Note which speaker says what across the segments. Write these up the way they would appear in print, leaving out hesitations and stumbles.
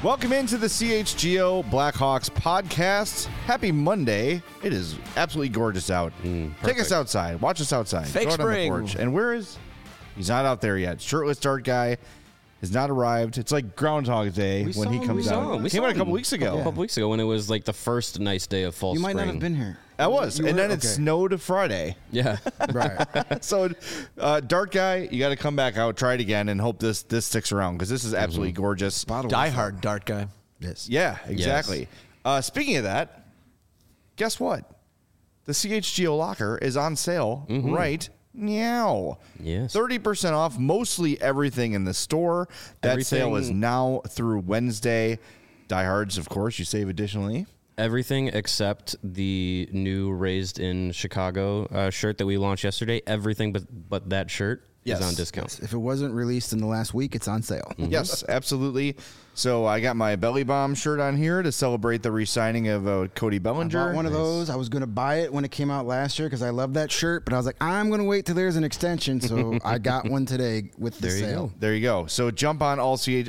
Speaker 1: Welcome into the CHGO Blackhawks podcast. Happy Monday. It is absolutely gorgeous out. Take us outside. Watch us outside.
Speaker 2: Fake
Speaker 1: Go out
Speaker 2: spring.
Speaker 1: on the porch. And where is... He's not out there yet. Shirtless dart guy has not arrived. It's like Groundhog Day when he comes out. He came out a couple weeks ago.
Speaker 3: A couple weeks ago when it was like the first nice day of fall
Speaker 2: You might
Speaker 3: spring.
Speaker 2: not have been here.
Speaker 1: That was.
Speaker 2: You
Speaker 1: And
Speaker 2: were?
Speaker 1: then it
Speaker 2: Okay.
Speaker 1: snowed Friday.
Speaker 3: Yeah.
Speaker 2: Right.
Speaker 1: So, dart guy, you got to come back out, try it again, and hope this sticks around because this is absolutely gorgeous.
Speaker 2: Die hard dart guy.
Speaker 4: Yes.
Speaker 1: Yeah, exactly. Speaking of that, guess what? The CHGO locker is on sale right now.
Speaker 3: Yes.
Speaker 1: 30% off mostly everything in the store. That sale is now through Wednesday. Diehards, of course, you save additionally.
Speaker 3: Everything except the new Raised in Chicago shirt that we launched yesterday. Everything but that shirt is on discount.
Speaker 4: If it wasn't released in the last week, it's on sale.
Speaker 1: Yes, absolutely. So I got my Belly Bomb shirt on here to celebrate the re-signing of Cody
Speaker 4: I
Speaker 1: Bellinger.
Speaker 4: bought one of those. I was going to buy it when it came out last year because I love that shirt, but I was like, I'm going to wait till there's an extension. So I got one today with the
Speaker 3: There you
Speaker 4: sale.
Speaker 3: go.
Speaker 1: There you go. So jump on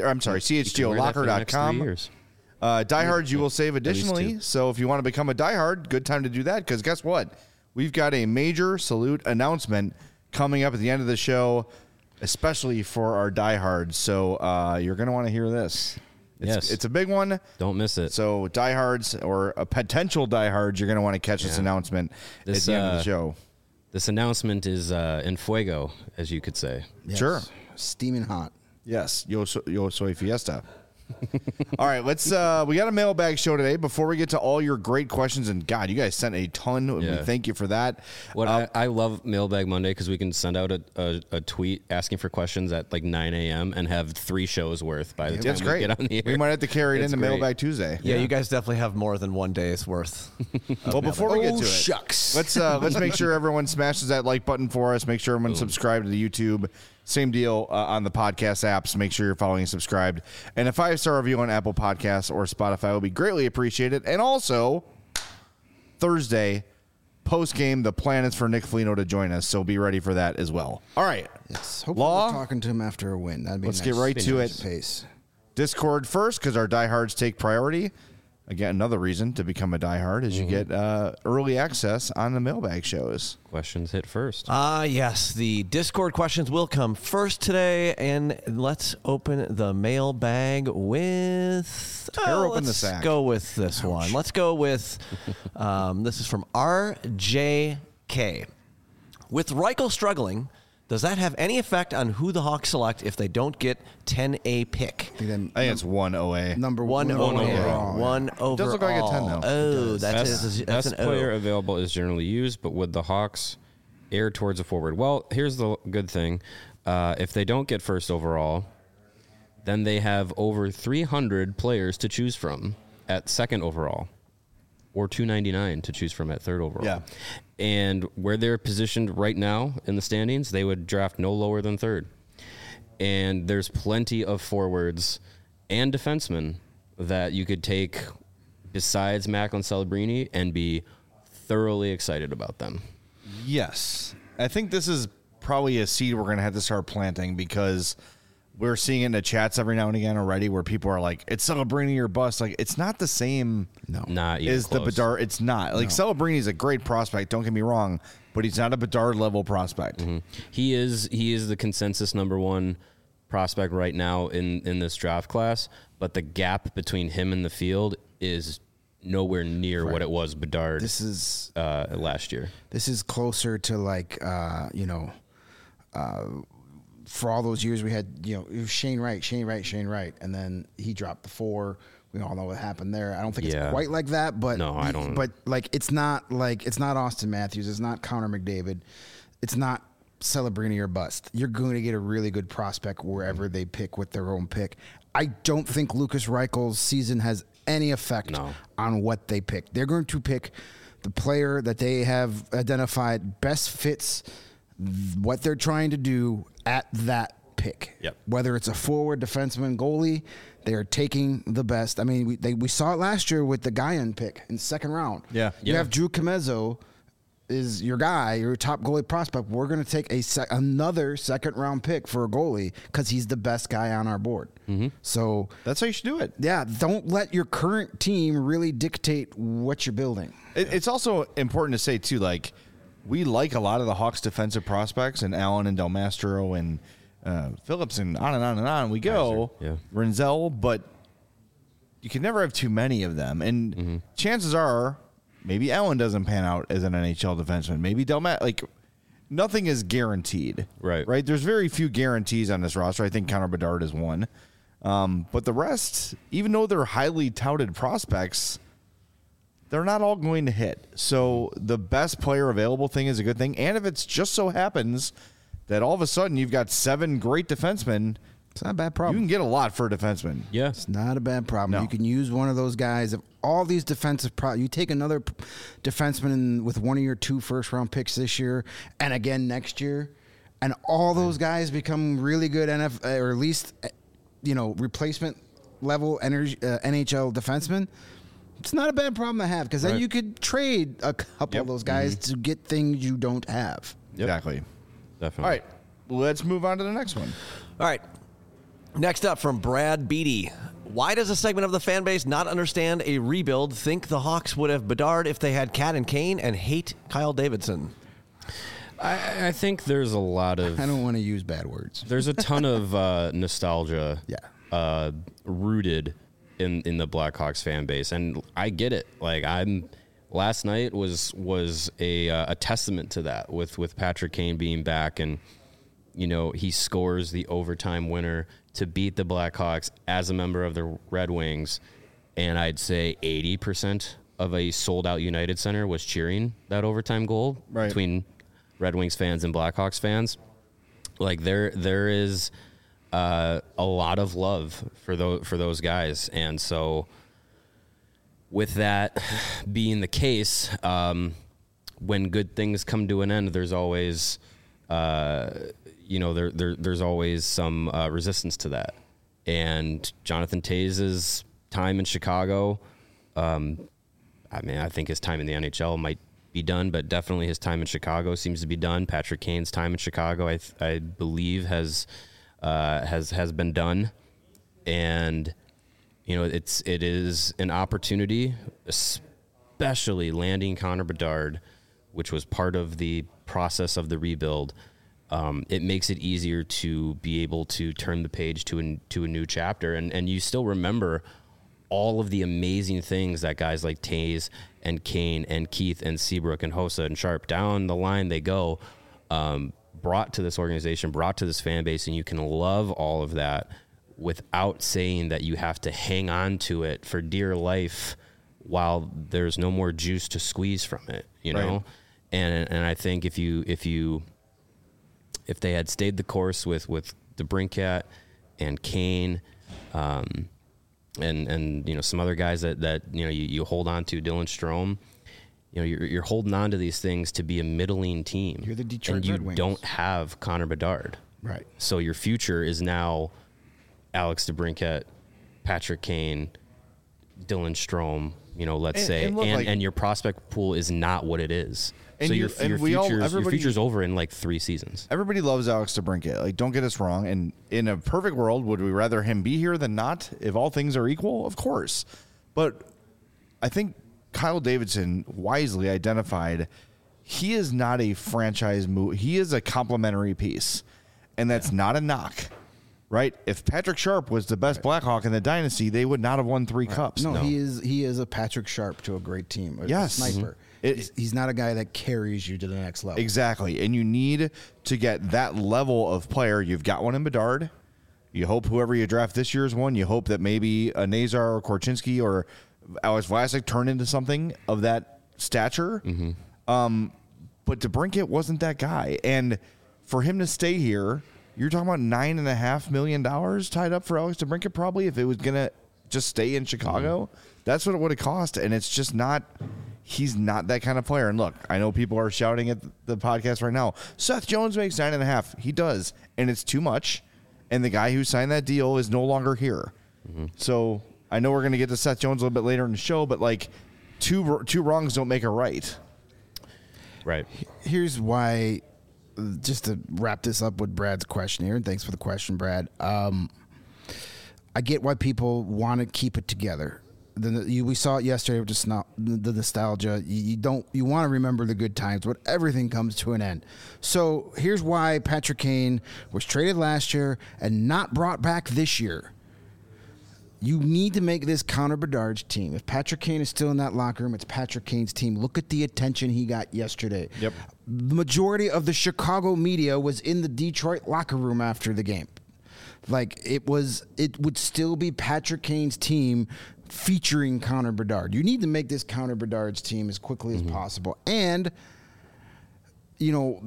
Speaker 1: CHGOlocker.com. Diehards, you will save additionally.
Speaker 3: two.
Speaker 1: So if you want to become a diehard, good time to do that because guess what? We've got a major salute announcement coming up at the end of the show, especially for our diehards. So you're going to want to hear this.
Speaker 3: Yes.
Speaker 1: It's a big one.
Speaker 3: Don't miss it.
Speaker 1: So diehards or a potential diehards, you're going to want to catch this announcement at the end of the show.
Speaker 3: This announcement is en fuego, as you could say.
Speaker 4: Yes.
Speaker 1: Sure.
Speaker 4: Steaming hot.
Speaker 1: Yes, Yo Soy Fiesta. All right, let's. We got a mailbag show today. Before we get to all your great questions, and God, you guys sent a ton. And we
Speaker 3: Yeah.
Speaker 1: thank you for that.
Speaker 3: What I love Mailbag Monday because we can send out a tweet asking for questions at like 9 a.m. and have 3 shows worth by the time
Speaker 1: That's
Speaker 3: we
Speaker 1: great.
Speaker 3: get on the air.
Speaker 1: We might have to carry it
Speaker 3: It's
Speaker 1: into
Speaker 3: great.
Speaker 1: Mailbag Tuesday.
Speaker 2: Yeah, you guys definitely have more than one day's worth.
Speaker 1: Well, before we get to it,
Speaker 4: Shucks.
Speaker 1: let's make sure everyone smashes that like button for us. Make sure everyone subscribed to the YouTube. Same deal on the podcast apps. Make sure you're following and subscribed. And a 5-star review on Apple Podcasts or Spotify will be greatly appreciated. And also, Thursday, post-game, the plan is for Nick Foligno to join us. So be ready for that as well. All right.
Speaker 4: Yes. Hopefully
Speaker 1: Law?
Speaker 4: we're talking to him after a win. That'd be
Speaker 1: Let's
Speaker 4: nice.
Speaker 1: get right to
Speaker 4: Nice
Speaker 1: it.
Speaker 4: Pace.
Speaker 1: Discord first because our diehards take priority. Again, another reason to become a diehard is you get early access on the mailbag shows.
Speaker 3: Questions hit first.
Speaker 2: Yes, the Discord questions will come first today, and let's open the mailbag with...
Speaker 1: Tear open the
Speaker 2: let's
Speaker 1: sack.
Speaker 2: go with this one. Let's go with... this is from RJK. With Reichel struggling, does that have any effect on who the Hawks select if they don't get 10A pick?
Speaker 4: I think then
Speaker 1: I think it's 1 OA.
Speaker 4: number
Speaker 2: One
Speaker 4: one
Speaker 2: overall.
Speaker 4: overall.
Speaker 2: One overall.
Speaker 1: does look like a 10, though.
Speaker 2: Oh, that's
Speaker 3: Best
Speaker 2: an
Speaker 3: player
Speaker 2: O.
Speaker 3: available is generally used, but would the Hawks err towards a forward? Well, here's the good thing. If they don't get first overall, then they have over 300 players to choose from at second overall or 299 to choose from at third overall.
Speaker 1: Yeah.
Speaker 3: And where they're positioned right now in the standings, they would draft no lower than third. And there's plenty of forwards and defensemen that you could take besides Macklin Celebrini and be thoroughly excited about them.
Speaker 1: Yes. I think this is probably a seed we're going to have to start planting because we're seeing it in the chats every now and again already where people are like, it's Celebrini or bust. Like, it's not the same
Speaker 3: Not even
Speaker 1: as the
Speaker 3: close.
Speaker 1: Bedard. It's not. Like, Celebrini is a great prospect. Don't get me wrong. But he's not a Bedard-level prospect.
Speaker 3: He is the consensus number one prospect right now in this draft class, but the gap between him and the field is nowhere near what it was Bedard
Speaker 4: This is
Speaker 3: last year.
Speaker 4: this is closer to like for all those years we had, it was Shane Wright, and then he dropped the 4. We all know what happened there. I don't think
Speaker 3: Yeah.
Speaker 4: it's quite like that, but
Speaker 3: No, I don't.
Speaker 4: But it's not Austin Matthews, it's not Connor McDavid, it's not Celebrini or bust. You're going to get a really good prospect wherever they pick with their own pick. I don't think Lucas Reichel's season has any effect on what they pick. They're going to pick the player that they have identified best fits what they're trying to do at that pick.
Speaker 3: Yep.
Speaker 4: Whether it's a forward, defenseman, goalie, they are taking the best. I mean, we saw it last year with the Guyan pick in the second round.
Speaker 1: Yeah.
Speaker 4: You have Drew Comezzo is your guy, your top goalie prospect, we're going to take another second-round pick for a goalie because he's the best guy on our board. So
Speaker 1: That's how you should do it.
Speaker 4: yeah, don't let your current team really dictate what you're building.
Speaker 1: It's also important to say, too, like, we like a lot of the Hawks' defensive prospects, and Allen and Del Mastro and Phillips and on and on and on we go.
Speaker 3: Yeah.
Speaker 1: Renzel, but you can never have too many of them. And chances are maybe Allen doesn't pan out as an NHL defenseman. Maybe Del Mastro, like, nothing is guaranteed.
Speaker 3: Right.
Speaker 1: Right? There's very few guarantees on this roster. I think Connor Bedard is one. But the rest, even though they're highly touted prospects, they're not all going to hit. So the best player available thing is a good thing. And if it's just so happens that all of a sudden you've got 7 great defensemen,
Speaker 4: It's not a bad
Speaker 1: you
Speaker 4: problem.
Speaker 1: can get a lot for a defenseman.
Speaker 3: Yeah.
Speaker 4: It's not a bad problem.
Speaker 1: No.
Speaker 4: You can use one of those guys. If all these defensive you take another defenseman with one of your 2 first-round picks this year and again next year, and all those guys become really good or at least replacement level NHL defensemen. It's not a bad problem to have because then
Speaker 3: Right.
Speaker 4: you could trade a couple of those guys to get things you don't have.
Speaker 3: Yep.
Speaker 1: Exactly.
Speaker 3: Definitely.
Speaker 1: All right. Let's move on to the next one.
Speaker 2: All right. Next up from Brad Beatty. Why does a segment of the fan base not understand a rebuild, think the Hawks would have Bedard if they had Cat and Kane, and hate Kyle Davidson?
Speaker 3: I think there's a lot of
Speaker 4: I don't want to use bad words.
Speaker 3: there's a ton of nostalgia
Speaker 4: Yeah.
Speaker 3: rooted in the Blackhawks fan base, and I get it. Like last night was a testament to that with Patrick Kane being back, and he scores the overtime winner to beat the Blackhawks as a member of the Red Wings, and I'd say 80% of a sold out United Center was cheering that overtime goal between Red Wings fans and Blackhawks fans. Like there is a lot of love for those guys, and so with that being the case, when good things come to an end, there's always there's always some resistance to that. And Jonathan Toews' time in Chicago, I think his time in the NHL might be done, but definitely his time in Chicago seems to be done. Patrick Kane's time in Chicago, I believe, has been done, and it is an opportunity, especially landing Connor Bedard, which was part of the process of the rebuild. It makes it easier to be able to turn the page to a new chapter, and you still remember all of the amazing things that guys like Toews and Kane and Keith and Seabrook and Hossa and Sharp down the line they go, brought to this organization, brought to this fan base, and you can love all of that without saying that you have to hang on to it for dear life while there's no more juice to squeeze from it, know? And I think if they had stayed the course with DeBrincat and Kane, and some other guys that you hold on to, Dylan Strome, you're holding on to these things to be a middling team.
Speaker 4: You're the Detroit
Speaker 3: and you
Speaker 4: Red Wings.
Speaker 3: don't have Connor Bedard.
Speaker 4: Right.
Speaker 3: So your future is now Alex DeBrincat, Patrick Kane, Dylan Strome, let's say, and your prospect pool is not what it is.
Speaker 1: And
Speaker 3: so
Speaker 1: you-
Speaker 3: your
Speaker 1: and we all-
Speaker 3: future's
Speaker 1: everybody-
Speaker 3: over in like 3 seasons.
Speaker 1: Everybody loves Alex DeBrincat. Like, don't get us wrong. And in a perfect world, would we rather him be here than not? If all things are equal, of course. But I think Kyle Davidson wisely identified he is not a franchise move. He is a complementary piece, and that's not a knock, right? If Patrick Sharp was the best Blackhawk in the dynasty, they would not have won 3 cups.
Speaker 4: No, he is a Patrick Sharp to a great team.
Speaker 1: Yes.
Speaker 4: A sniper. He's not a guy that carries you to the next level.
Speaker 1: Exactly. And you need to get that level of player. You've got one in Bedard. You hope whoever you draft this year's one, you hope that maybe a Nazar or Korchinski or Alex Vlasic turn into something of that stature. But DeBrincat wasn't that guy. And for him to stay here, you're talking about $9.5 million tied up for Alex DeBrincat probably if it was going to just stay in Chicago. That's what it would have cost. And it's just not... He's not that kind of player. And look, I know people are shouting at the podcast right now, Seth Jones makes 9.5. He does. And it's too much. And the guy who signed that deal is no longer here. So I know we're going to get to Seth Jones a little bit later in the show, but like two wrongs don't make a right.
Speaker 3: Right.
Speaker 4: Here's why, just to wrap this up with Brad's question here, and thanks for the question, Brad. I get why people want to keep it together. We saw it yesterday with the nostalgia. You want to remember the good times, but everything comes to an end. So here's why Patrick Kane was traded last year and not brought back this year. You need to make this Connor Bedard's team. If Patrick Kane is still in that locker room, it's Patrick Kane's team. Look at the attention he got yesterday.
Speaker 1: Yep.
Speaker 4: The majority of the Chicago media was in the Detroit locker room after the game. Like, it would still be Patrick Kane's team featuring Connor Bedard. You need to make this Connor Bedard's team as quickly as possible. And, you know,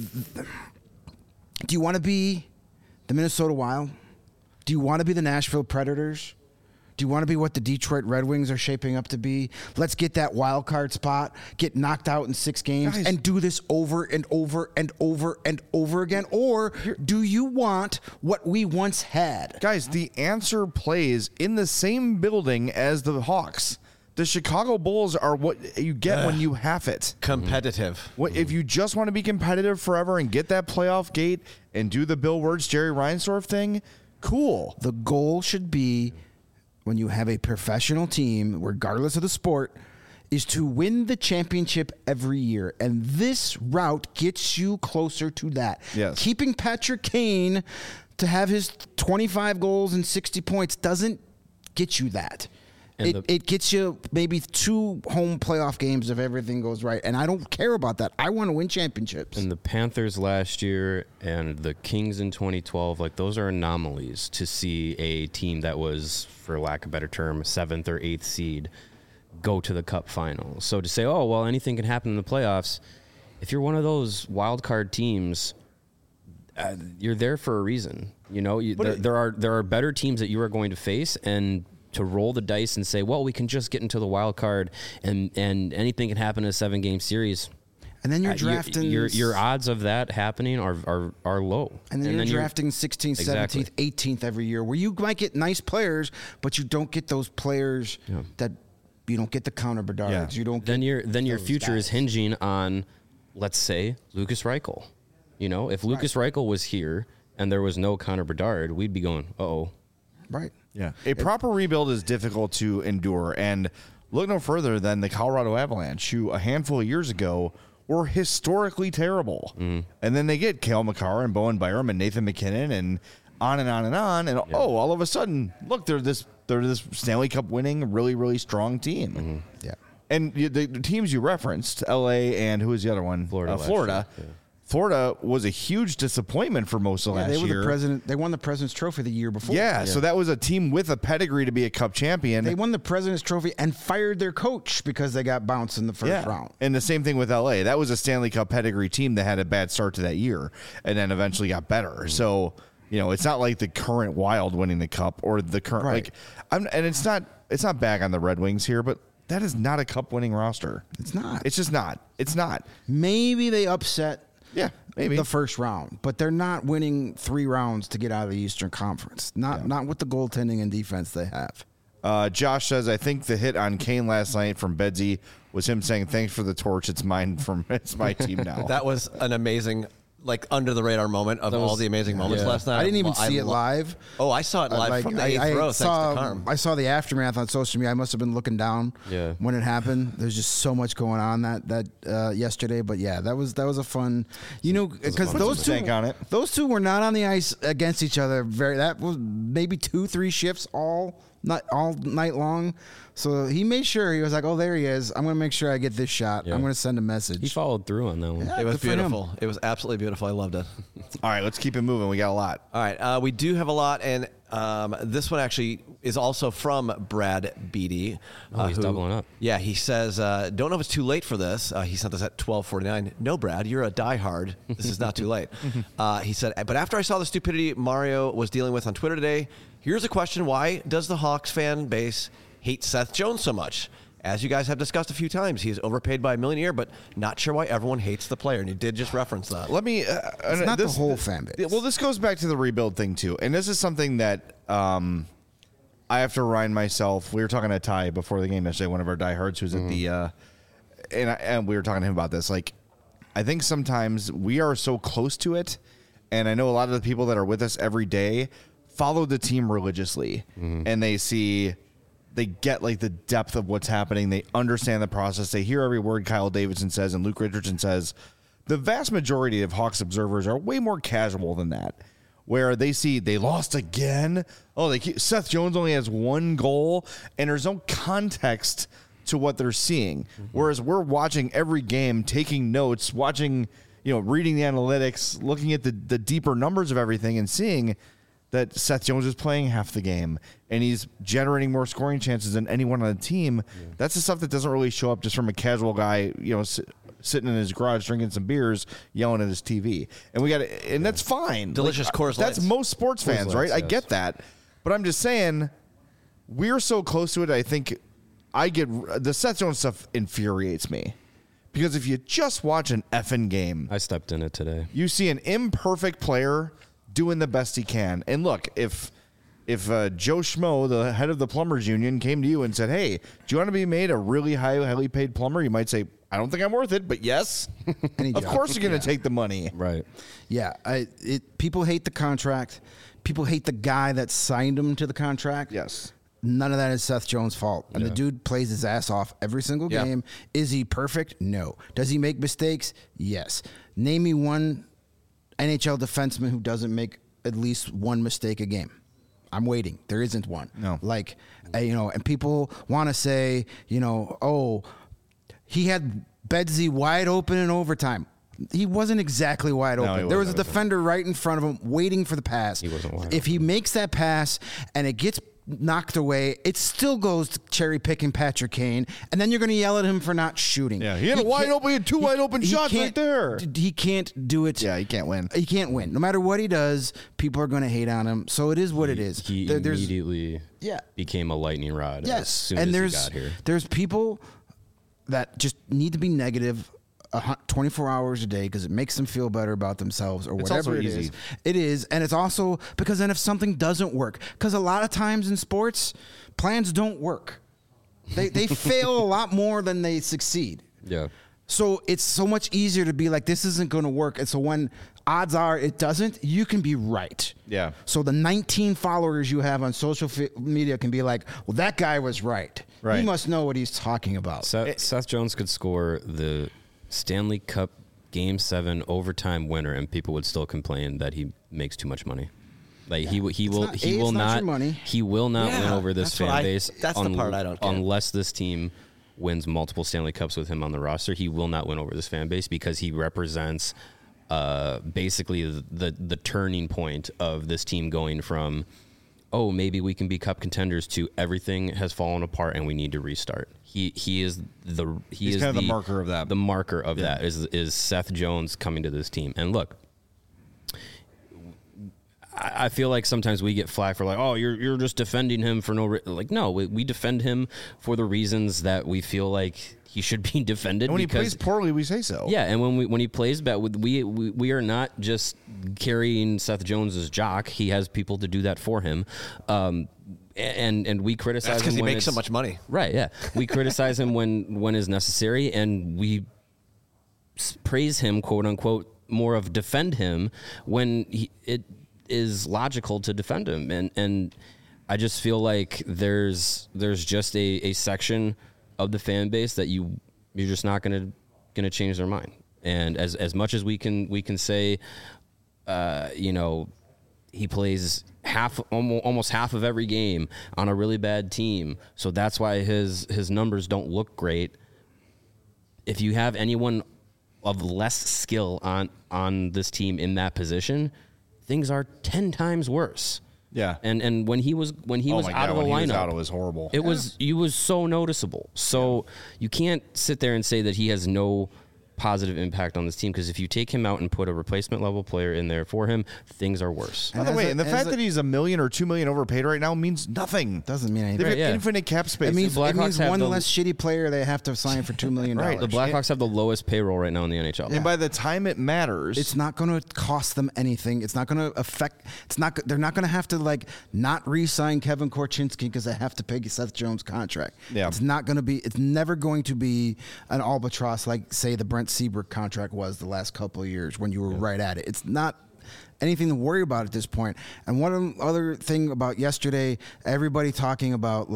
Speaker 4: do you want to be the Minnesota Wild? Do you want to be the Nashville Predators? Do you want to be what the Detroit Red Wings are shaping up to be? Let's get that wild card spot, get knocked out in 6 games, and do this over and over and over and over again? Or do you want what we once had?
Speaker 1: Guys, the answer plays in the same building as the Hawks. The Chicago Bulls are what you get when you have it.
Speaker 2: Competitive.
Speaker 1: If you just want to be competitive forever and get that playoff gate and do the Bill Wirtz, Jerry Reinsdorf thing, cool.
Speaker 4: The goal should be, when you have a professional team, regardless of the sport, is to win the championship every year. And this route gets you closer to that.
Speaker 1: Yes.
Speaker 4: Keeping Patrick Kane to have his 25 goals and 60 points doesn't get you that. It gets you maybe 2 home playoff games if everything goes right. And I don't care about that. I want to win championships.
Speaker 3: And the Panthers last year and the Kings in 2012, like, those are anomalies to see a team that was, for lack of a better term, 7th or 8th seed go to the Cup final. So to say, oh, well, anything can happen in the playoffs, if you're one of those wild card teams, you're there for a reason. You know, there are better teams that you are going to face, and to roll the dice and say, well, we can just get into the wild card and anything can happen in a 7-game series.
Speaker 4: And then you're drafting...
Speaker 3: Your odds of that happening are low.
Speaker 4: And then you're drafting 16th, 17th, 18th every year, where you might get nice players, but you don't get those players that... You don't get the Connor Bedards. Yeah. You don't get
Speaker 3: then your future is hinging on, let's say, Lucas Reichel. You know, if Lucas Reichel was here and there was no Connor Bedard, we'd be going, uh-oh.
Speaker 4: Right.
Speaker 1: Yeah. A proper rebuild is difficult to endure. And look no further than the Colorado Avalanche, who a handful of years ago were historically terrible. Mm-hmm. And then they get Cale Makar and Bowen Byram and Nathan McKinnon and on and on and on. And all of a sudden, look, they're this Stanley Cup winning, really, really strong team.
Speaker 4: Mm-hmm. Yeah.
Speaker 1: And the teams you referenced, LA and who was the other one?
Speaker 3: Florida.
Speaker 1: Florida was a huge disappointment for most of last year.
Speaker 4: They won the President's Trophy the year before.
Speaker 1: Yeah, so that was a team with a pedigree to be a Cup champion.
Speaker 4: They won the President's Trophy and fired their coach because they got bounced in the first round.
Speaker 1: And the same thing with LA. That was a Stanley Cup pedigree team that had a bad start to that year and then eventually got better. Mm-hmm. So, you know, it's not like the current Wild winning the Cup or the current and it's not bag on the Red Wings here, but that is not a Cup winning roster.
Speaker 4: It's not.
Speaker 1: It's just not. It's not.
Speaker 4: Maybe they upset
Speaker 1: maybe
Speaker 4: the first round, but they're not winning 3 rounds to get out of the Eastern Conference. Not with the goaltending and defense they have.
Speaker 1: Josh says, I think the hit on Kane last night from Bedsy was him saying, thanks for the torch. It's mine. It's my team now.
Speaker 2: That was an amazing, like, under the radar moment of all the amazing moments last night.
Speaker 4: I didn't even see it live.
Speaker 2: Oh, I saw it live from the 8th row, thanks to Carm.
Speaker 4: I saw the aftermath on social media. I must have been looking down when it happened. There's just so much going on that yesterday. But yeah, that was a fun, because those two were not on the ice against each other. That was maybe 2-3 shifts all night long. So he made sure, he was like, oh, there he is. I'm going to make sure I get this shot. I'm going to send a message.
Speaker 3: He followed through on that one.
Speaker 2: Yeah, it was beautiful. It was absolutely beautiful. I loved it.
Speaker 1: All right, let's keep it moving. We got a lot.
Speaker 2: All right, we do have a lot, and this one actually is also from Brad Beatty.
Speaker 3: He's doubling up.
Speaker 2: Yeah, he says, don't know if it's too late for this. He sent this at 12:49. No, Brad, you're a diehard. This is not too late. He said, but after I saw the stupidity Mario was dealing with on Twitter today, here's a question. Why does the Hawks fan base hate Seth Jones so much? As you guys have discussed a few times, he is overpaid by $1 million a year, but not sure why everyone hates the player. And you did just reference that.
Speaker 1: Let me.
Speaker 4: It's not the whole fan base.
Speaker 1: Well, this goes back to the rebuild thing too, and this is something that I have to remind myself. We were talking to Ty before the game yesterday, one of our diehards who's at the, and we were talking to him about this. Like, I think sometimes we are so close to it, and I know a lot of the people that are with us every day follow the team religiously, and they get like the depth of what's happening. They understand the process. They hear every word Kyle Davidson says and Luke Richardson says. The vast majority of Hawks observers are way more casual than that, where they see they lost again. Oh, Seth Jones only has one goal, and there's no context to what they're seeing. Whereas we're watching every game, taking notes, watching, reading the analytics, looking at the deeper numbers of everything, and seeing that Seth Jones is playing half the game and he's generating more scoring chances than anyone on the team. Yeah. That's the stuff that doesn't really show up just from a casual guy, sitting in his garage drinking some beers, yelling at his TV. And that's fine.
Speaker 2: Delicious Coors Lights.
Speaker 1: That's most sports fans, right? Yes. I get that. But I'm just saying, we're so close to it. I think the Seth Jones stuff infuriates me. Because if you just watch an effing game.
Speaker 3: I stepped in it today.
Speaker 1: You see an imperfect player doing the best he can. And look, if Joe Schmo, the head of the plumbers union, came to you and said, "Hey, do you want to be made a really highly paid plumber?" You might say, "I don't think I'm worth it," but yes, of course you're going to take the money.
Speaker 3: Right.
Speaker 4: Yeah. People hate the contract. People hate the guy that signed him to the contract.
Speaker 1: Yes.
Speaker 4: None of that is Seth Jones' fault. And the dude plays his ass off every single game. Is he perfect? No. Does he make mistakes? Yes. Name me one NHL defenseman who doesn't make at least one mistake a game. I'm waiting. There isn't one.
Speaker 1: No.
Speaker 4: And people want to say, he had Bedsy wide open in overtime. He wasn't exactly wide open. There was a defender right in front of him waiting for the pass.
Speaker 3: He wasn't wide
Speaker 4: If he makes that pass and it gets knocked away, it still goes to cherry picking Patrick Kane, and then you're going to yell at him for not shooting.
Speaker 1: Yeah, he had two wide open shots right there.
Speaker 4: He can't do it.
Speaker 1: Yeah, he can't win.
Speaker 4: He can't win. No matter what he does, people are going to hate on him. So it is what it is.
Speaker 3: He immediately became a lightning rod as soon as he got here.
Speaker 4: There's people that just need to be negative 24 hours a day because it makes them feel better about themselves or whatever it is. It is. And it's also because then if something doesn't work, because a lot of times in sports, plans don't work. They fail a lot more than they succeed.
Speaker 3: Yeah.
Speaker 4: So it's so much easier to be like, this isn't going to work. And so when odds are it doesn't, you can be right.
Speaker 1: Yeah.
Speaker 4: So the 19 followers you have on social media can be like, well, that guy was right.
Speaker 1: Right.
Speaker 4: He must know what he's talking about.
Speaker 3: Seth Jones could score the Stanley Cup Game 7 overtime winner, and people would still complain that he makes too much money. Like he will not win over this fan base.
Speaker 2: That's the part I don't get.
Speaker 3: Unless this team wins multiple Stanley Cups with him on the roster, he will not win over this fan base because he represents basically the turning point of this team going from, oh, maybe we can be cup contenders to everything has fallen apart and we need to restart. He's
Speaker 1: kind of the marker of that.
Speaker 3: The marker of that is Seth Jones coming to this team. And look, I feel like sometimes we get flack for like, oh, you're just defending him for no no, we defend him for the reasons that we feel like he should be defended.
Speaker 1: And when he plays poorly, we say so.
Speaker 3: Yeah, and when he plays bad, we are not just carrying Seth Jones's jock. He has people to do that for him. And we criticize him
Speaker 2: because he makes so much money.
Speaker 3: Right, yeah. We criticize him when is necessary, and we praise him, quote unquote, more of defend him when it is logical to defend him. And I just feel like there's just a section of the fan base that you're just not gonna change their mind. And as much as we can say, he plays almost half of every game on a really bad team, so that's why his numbers don't look great. If you have anyone of less skill on this team in that position, things are 10 times worse.
Speaker 1: Yeah.
Speaker 3: And when he was out of the lineup,
Speaker 1: it was horrible.
Speaker 3: It was so noticeable. So you can't sit there and say that he has no positive impact on this team, because if you take him out and put a replacement level player in there for him, things are worse.
Speaker 1: By the way, the fact that he's $1 million or $2 million overpaid right now means nothing.
Speaker 4: Doesn't mean anything.
Speaker 1: They have infinite cap space.
Speaker 4: It means one less shitty player they have to sign for $2 million.
Speaker 3: Right. The Blackhawks have the lowest payroll right now in the NHL.
Speaker 1: And by the time it matters,
Speaker 4: it's not going to cost them anything. It's not going to affect. They're not going to have to not re-sign Kevin Korchinski because they have to pay Seth Jones contract.
Speaker 1: Yeah.
Speaker 4: It's not going to be. It's never going to be an albatross like say the Brent Trent Seabrook contract was the last couple of years when you were right at it. It's not anything to worry about at this point. And one other thing about yesterday, everybody talking about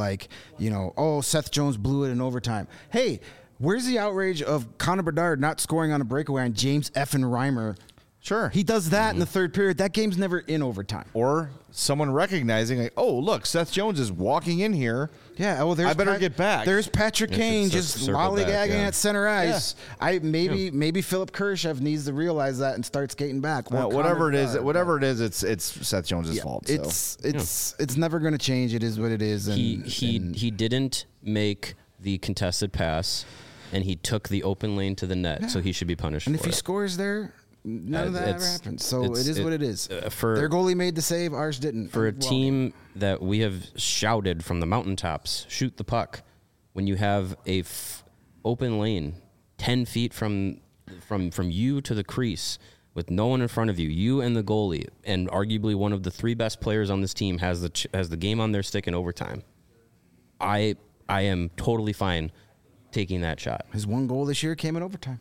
Speaker 4: Seth Jones blew it in overtime. Hey, where's the outrage of Connor Bedard not scoring on a breakaway on James effing Reimer?
Speaker 1: Sure.
Speaker 4: He does that in the third period. That game's never in overtime.
Speaker 1: Or someone recognizing, like, oh, look, Seth Jones is walking in here.
Speaker 4: Yeah, well,
Speaker 1: I better get back.
Speaker 4: There's Patrick Kane just lollygagging at center ice. Yeah. Maybe Philip Kurashev needs to realize that and start skating back.
Speaker 1: Whatever it is, it's Seth Jones' fault.
Speaker 4: It's never going to change. It is what it is. And
Speaker 3: he didn't make the contested pass, and he took the open lane to the net, so he should be punished.
Speaker 4: And
Speaker 3: for
Speaker 4: if he scores there, none of that ever happens. So it is what it is.
Speaker 3: Their
Speaker 4: goalie made the save, ours didn't.
Speaker 3: For a team that we have shouted from the mountaintops, shoot the puck, when you have a open lane 10 feet from you to the crease with no one in front of you, you and the goalie, and arguably one of the three best players on this team has the game on their stick in overtime, I am totally fine taking that shot.
Speaker 4: His one goal this year came in overtime.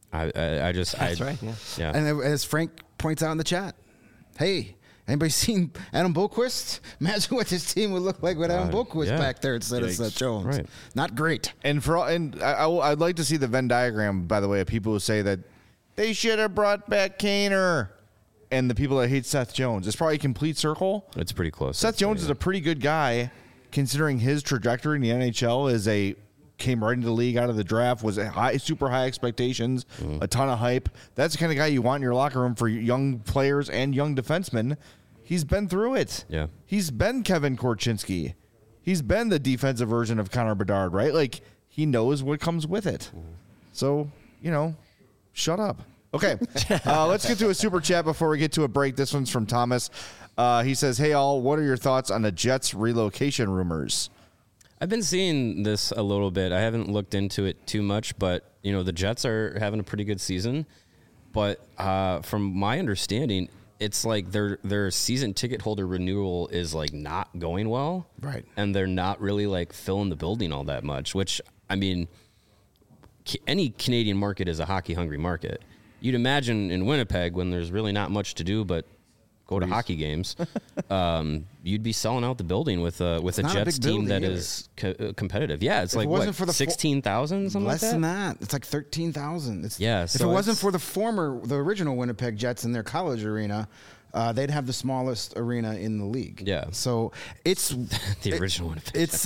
Speaker 2: That's right.
Speaker 3: Yeah.
Speaker 4: And as Frank points out in the chat, hey, anybody seen Adam Boqvist? Imagine what this team would look like with Adam Boqvist back there instead of Seth Jones.
Speaker 3: Right.
Speaker 4: Not great.
Speaker 1: And I'd like to see the Venn diagram, by the way, of people who say that they should have brought back Kaner, and the people that hate Seth Jones. It's probably a complete circle.
Speaker 3: It's pretty close.
Speaker 1: Seth Jones is a pretty good guy, considering his trajectory in the NHL came right into the league out of the draft, was super high expectations, a ton of hype. That's the kind of guy you want in your locker room for young players and young defensemen. He's been through it.
Speaker 3: Yeah.
Speaker 1: He's been Kevin Korchinski. He's been the defensive version of Connor Bedard, right? Like, he knows what comes with it. So, shut up. Okay, let's get to a super chat before we get to a break. This one's from Thomas. He says, hey, all, what are your thoughts on the Jets relocation rumors?
Speaker 3: I've been seeing this a little bit. I haven't looked into it too much, but the Jets are having a pretty good season. But from my understanding, it's like their season ticket holder renewal is like not going well,
Speaker 4: right?
Speaker 3: And they're not really like filling the building all that much. Which, I mean, any Canadian market is a hockey hungry market. You'd imagine in Winnipeg, when there's really not much to do but go to hockey games, you'd be selling out the building with a Jets team that is competitive. Yeah, it's like what, 16,000, something like that?
Speaker 4: Less than that. It's like 13,000.
Speaker 3: If
Speaker 4: it wasn't for the original Winnipeg Jets in their college arena, they'd have the smallest arena in the league.
Speaker 3: Yeah.
Speaker 4: So it's
Speaker 3: the original Winnipeg.
Speaker 4: It's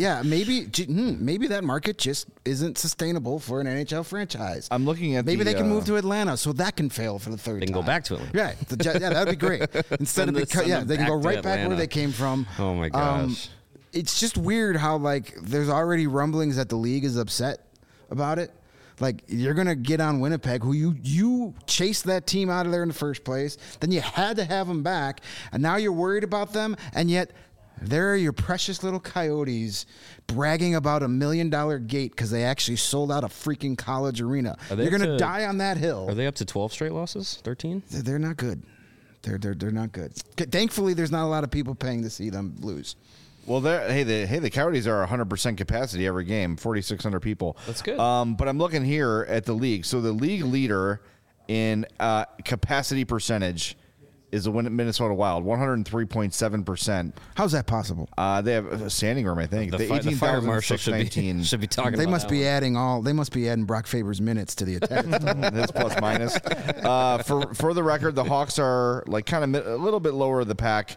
Speaker 4: maybe that market just isn't sustainable for an NHL franchise.
Speaker 1: I'm looking at
Speaker 4: maybe they can move to Atlanta so that can fail for the third time.
Speaker 3: They can go back to Atlanta.
Speaker 4: Right. that'd be great. Instead of they can go right back where they came from.
Speaker 3: Oh my gosh.
Speaker 4: It's just weird how there's already rumblings that the league is upset about it. Like, you're going to get on Winnipeg, who you chased that team out of there in the first place. Then you had to have them back. And now you're worried about them. And yet there are your precious little Coyotes bragging about $1 million gate because they actually sold out a freaking college arena. You're going to die on that hill.
Speaker 3: Are they up to 12 straight losses? 13?
Speaker 4: They're not good. They're not good. Thankfully, there's not a lot of people paying to see them lose.
Speaker 1: Well, the Coyotes are 100% capacity every game, 4,600 people.
Speaker 3: That's good.
Speaker 1: But I'm looking here at the league. So the league leader in capacity percentage is the Minnesota Wild, 103.7%.
Speaker 4: How's that possible?
Speaker 1: They have a standing room, I think.
Speaker 3: The fire marshal should be talking.
Speaker 4: They
Speaker 3: about
Speaker 4: must be adding They must be adding Brock Faber's minutes to the attack.
Speaker 1: That's plus minus. For the record, the Hawks are kind of a little bit lower of the pack,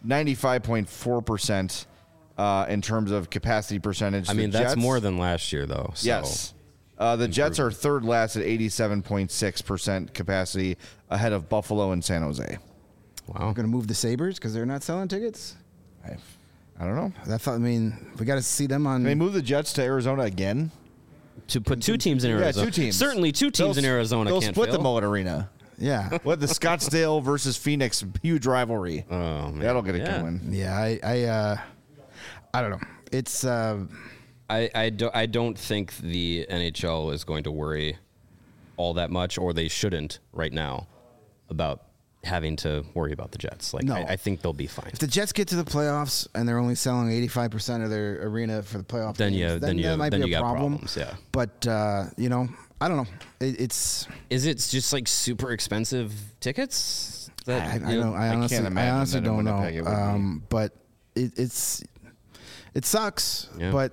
Speaker 1: 95.4%. In terms of capacity percentage.
Speaker 3: I mean, that's more than last year, though. So.
Speaker 1: Yes. The Jets are third last at 87.6% capacity, ahead of Buffalo and San Jose.
Speaker 3: Wow.
Speaker 4: We're going to move the Sabres because they're not selling tickets?
Speaker 1: I don't know.
Speaker 4: We got to see them on...
Speaker 1: Can they move the Jets to Arizona again?
Speaker 3: To put two teams in Arizona?
Speaker 1: Yeah, 2 teams.
Speaker 3: Certainly 2 teams in Arizona
Speaker 1: they'll
Speaker 3: can't
Speaker 1: split
Speaker 3: fail.
Speaker 1: the Mullet Arena.
Speaker 4: Yeah.
Speaker 1: What, the Scottsdale versus Phoenix huge rivalry.
Speaker 3: Oh, man.
Speaker 1: That'll get it going.
Speaker 4: Yeah, I don't know. It's
Speaker 3: I don't think the NHL is going to worry all that much, or they shouldn't right now, about having to worry about the Jets. Like
Speaker 4: No.
Speaker 3: I think they'll be fine.
Speaker 4: If the Jets get to the playoffs and they're only selling 85% of their arena for the playoff
Speaker 3: Then
Speaker 4: games, that might be a
Speaker 3: got
Speaker 4: problem.
Speaker 3: problems. Yeah.
Speaker 4: But I don't know. It's
Speaker 3: Is it just like super expensive tickets?
Speaker 4: I honestly
Speaker 1: can't imagine
Speaker 4: honestly
Speaker 1: that in
Speaker 4: don't
Speaker 1: Winnipeg it would
Speaker 4: know.
Speaker 1: be.
Speaker 4: But it sucks.
Speaker 3: Yeah.
Speaker 4: But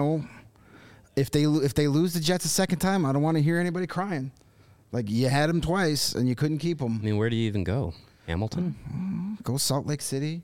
Speaker 4: if they lose the Jets a second time, I don't want to hear anybody crying. Like, you had them twice and you couldn't keep them.
Speaker 3: I mean, where do you even go? Hamilton?
Speaker 4: Go Salt Lake City.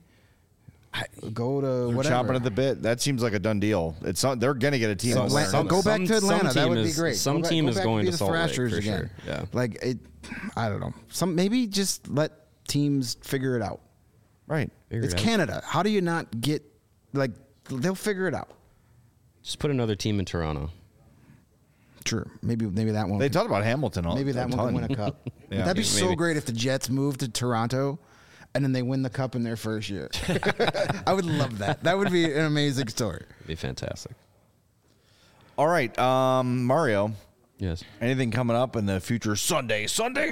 Speaker 4: Go to
Speaker 1: They're
Speaker 4: whatever.
Speaker 1: chomping at the bit. That seems like a done deal. It's not, they're going to get a team.
Speaker 4: Atlanta- go back to Atlanta. That would be great.
Speaker 3: Some
Speaker 4: Go
Speaker 3: team
Speaker 4: go
Speaker 3: is
Speaker 4: back
Speaker 3: going
Speaker 4: be
Speaker 3: to
Speaker 4: the
Speaker 3: Salt Lake
Speaker 4: Thrashers
Speaker 3: for
Speaker 4: again.
Speaker 3: sure. Yeah.
Speaker 4: Like I don't know. Maybe just let teams figure it out.
Speaker 1: Right.
Speaker 4: It's Canada. How do you not get they'll figure it out?
Speaker 3: Just put another team in Toronto.
Speaker 4: True. Maybe that one.
Speaker 1: They talked about Hamilton.
Speaker 4: Maybe that one can win a cup. That'd be so
Speaker 3: Maybe.
Speaker 4: great if the Jets moved to Toronto, and then they win the cup in their first year. I would love that. That would be an amazing story.
Speaker 3: It'd be fantastic.
Speaker 1: All right, Mario.
Speaker 3: Yes.
Speaker 1: Anything coming up in the future? Sunday.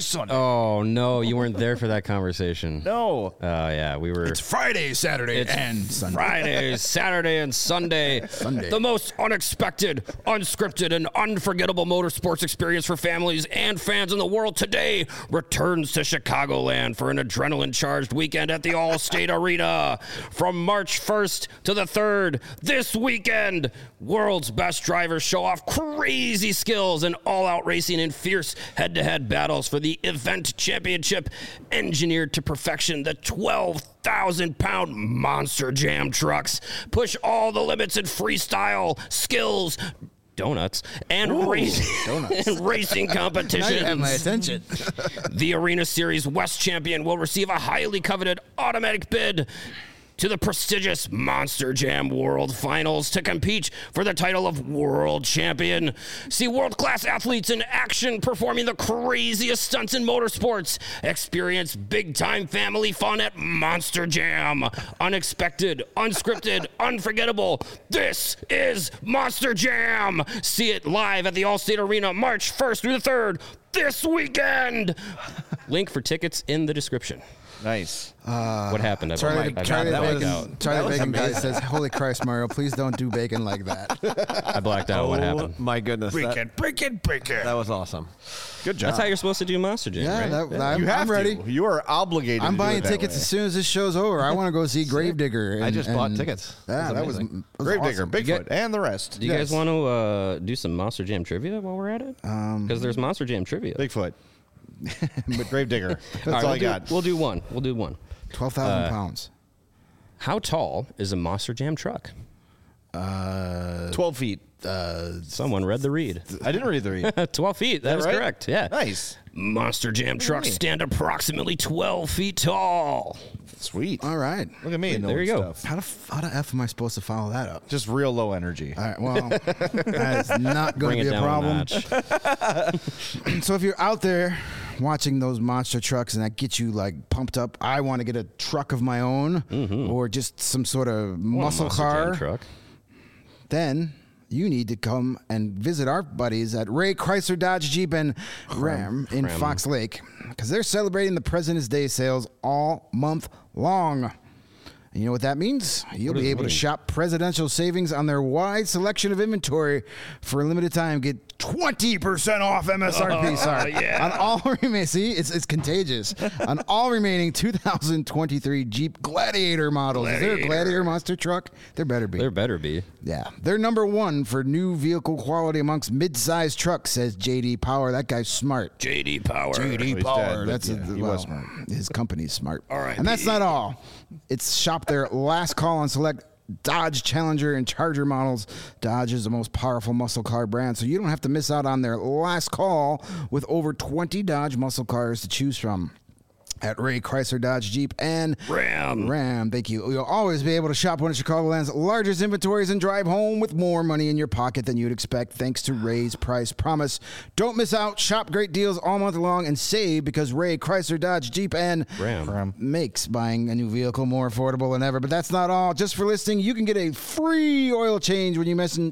Speaker 3: Oh no, you weren't there for that conversation.
Speaker 1: No.
Speaker 3: Oh yeah, we were.
Speaker 4: Friday, Saturday, and Sunday.
Speaker 3: Friday, Saturday, and Sunday. The most unexpected, unscripted, and unforgettable motorsports experience for families and fans in the world today returns to Chicagoland for an adrenaline-charged weekend at the Allstate Arena. From March 1st to the 3rd, this weekend, world's best drivers show off crazy skills and all-out racing in fierce head-to-head battles for the event championship, engineered to perfection. The 12,000-pound Monster Jam trucks push all the limits in freestyle, skills, donuts, and racing competitions.
Speaker 4: Now you have my attention.
Speaker 3: The Arena Series West champion will receive a highly coveted automatic bid to the prestigious Monster Jam World Finals to compete for the title of World Champion. See world-class athletes in action performing the craziest stunts in motorsports. Experience big-time family fun at Monster Jam. Unexpected, unscripted, unforgettable. This is Monster Jam. See it live at the Allstate Arena March 1st through the 3rd this weekend. Link for tickets in the description.
Speaker 1: Nice.
Speaker 3: What happened?
Speaker 4: Charlie
Speaker 1: That was
Speaker 4: Bacon guy
Speaker 1: amazing.
Speaker 4: says, "Holy Christ, Mario! Please don't do bacon like that."
Speaker 3: I blacked out. What happened?
Speaker 2: My goodness.
Speaker 1: Break it.
Speaker 2: That was awesome.
Speaker 1: Good job.
Speaker 3: That's how you're supposed to do Monster Jam,
Speaker 4: Yeah,
Speaker 3: right?
Speaker 1: you have
Speaker 4: I'm ready.
Speaker 1: to. You are obligated.
Speaker 4: I'm
Speaker 1: to do
Speaker 4: buying
Speaker 1: it that
Speaker 4: tickets
Speaker 1: way.
Speaker 4: as soon as this show's over. I want to go see Gravedigger.
Speaker 2: I just bought tickets.
Speaker 4: Yeah, that was
Speaker 2: amazing.
Speaker 1: Gravedigger,
Speaker 4: awesome.
Speaker 1: Bigfoot, and the rest.
Speaker 3: Do you guys want to do some Monster Jam trivia while we're at it? Because there's Monster Jam trivia.
Speaker 1: Bigfoot. But Gravedigger. That's
Speaker 3: All right,
Speaker 1: all I
Speaker 3: we'll
Speaker 1: got.
Speaker 3: We'll do one.
Speaker 4: 12,000 pounds.
Speaker 3: How tall is a Monster Jam truck?
Speaker 1: 12 feet.
Speaker 3: Someone read the read.
Speaker 1: I didn't read the read.
Speaker 3: 12 feet. That is
Speaker 1: right?
Speaker 3: correct. Yeah.
Speaker 1: Nice.
Speaker 3: Monster Jam trucks stand approximately 12 feet tall.
Speaker 1: Sweet.
Speaker 4: All right.
Speaker 1: Look at me.
Speaker 3: There
Speaker 1: knowing
Speaker 3: you go.
Speaker 1: stuff.
Speaker 4: How the F am I supposed to follow that up?
Speaker 1: Just real low energy.
Speaker 4: All right, well, that is not going
Speaker 3: Bring
Speaker 4: to
Speaker 3: it
Speaker 4: be a
Speaker 3: down
Speaker 4: problem.
Speaker 3: a notch.
Speaker 4: So if you're out there watching those monster trucks and that gets you like pumped up, I want to get a truck of my own or just some sort of muscle
Speaker 3: Monster Jam
Speaker 4: car,
Speaker 3: truck.
Speaker 4: then you need to come and visit our buddies at Ray Chrysler Dodge Jeep and Ram in Fox Lake because they're celebrating the President's Day sales all month long. And you know what that means? You'll be able to shop presidential savings on their wide selection of inventory for a limited time. Get 20% off MSRP. Sorry. On all remaining, see, it's contagious. On all remaining 2023 Jeep Gladiator models. Is there a Gladiator monster truck? There better be.
Speaker 3: There better be.
Speaker 4: Yeah, they're number one for new vehicle quality amongst mid-sized trucks, says J.D. Power. That guy's smart.
Speaker 3: JD Power.
Speaker 4: J.D.
Speaker 1: he's
Speaker 4: Power.
Speaker 1: dead, but
Speaker 4: That's
Speaker 1: yeah, he was smart.
Speaker 4: His company's smart.
Speaker 3: All right,
Speaker 4: and that's not all. It's shop their last call on select Dodge Challenger and Charger models. Dodge is the most powerful muscle car brand, so you don't have to miss out on their last call with over 20 Dodge muscle cars to choose from. At Ray Chrysler Dodge Jeep and Ram. Thank you. You'll always be able to shop one of Chicagoland's largest inventories and drive home with more money in your pocket than you'd expect thanks to Ray's Price Promise. Don't miss out. Shop great deals all month long and save because Ray Chrysler Dodge Jeep and
Speaker 3: Ram
Speaker 4: makes buying a new vehicle more affordable than ever. But that's not all. Just for listening, you can get a free oil change when you mention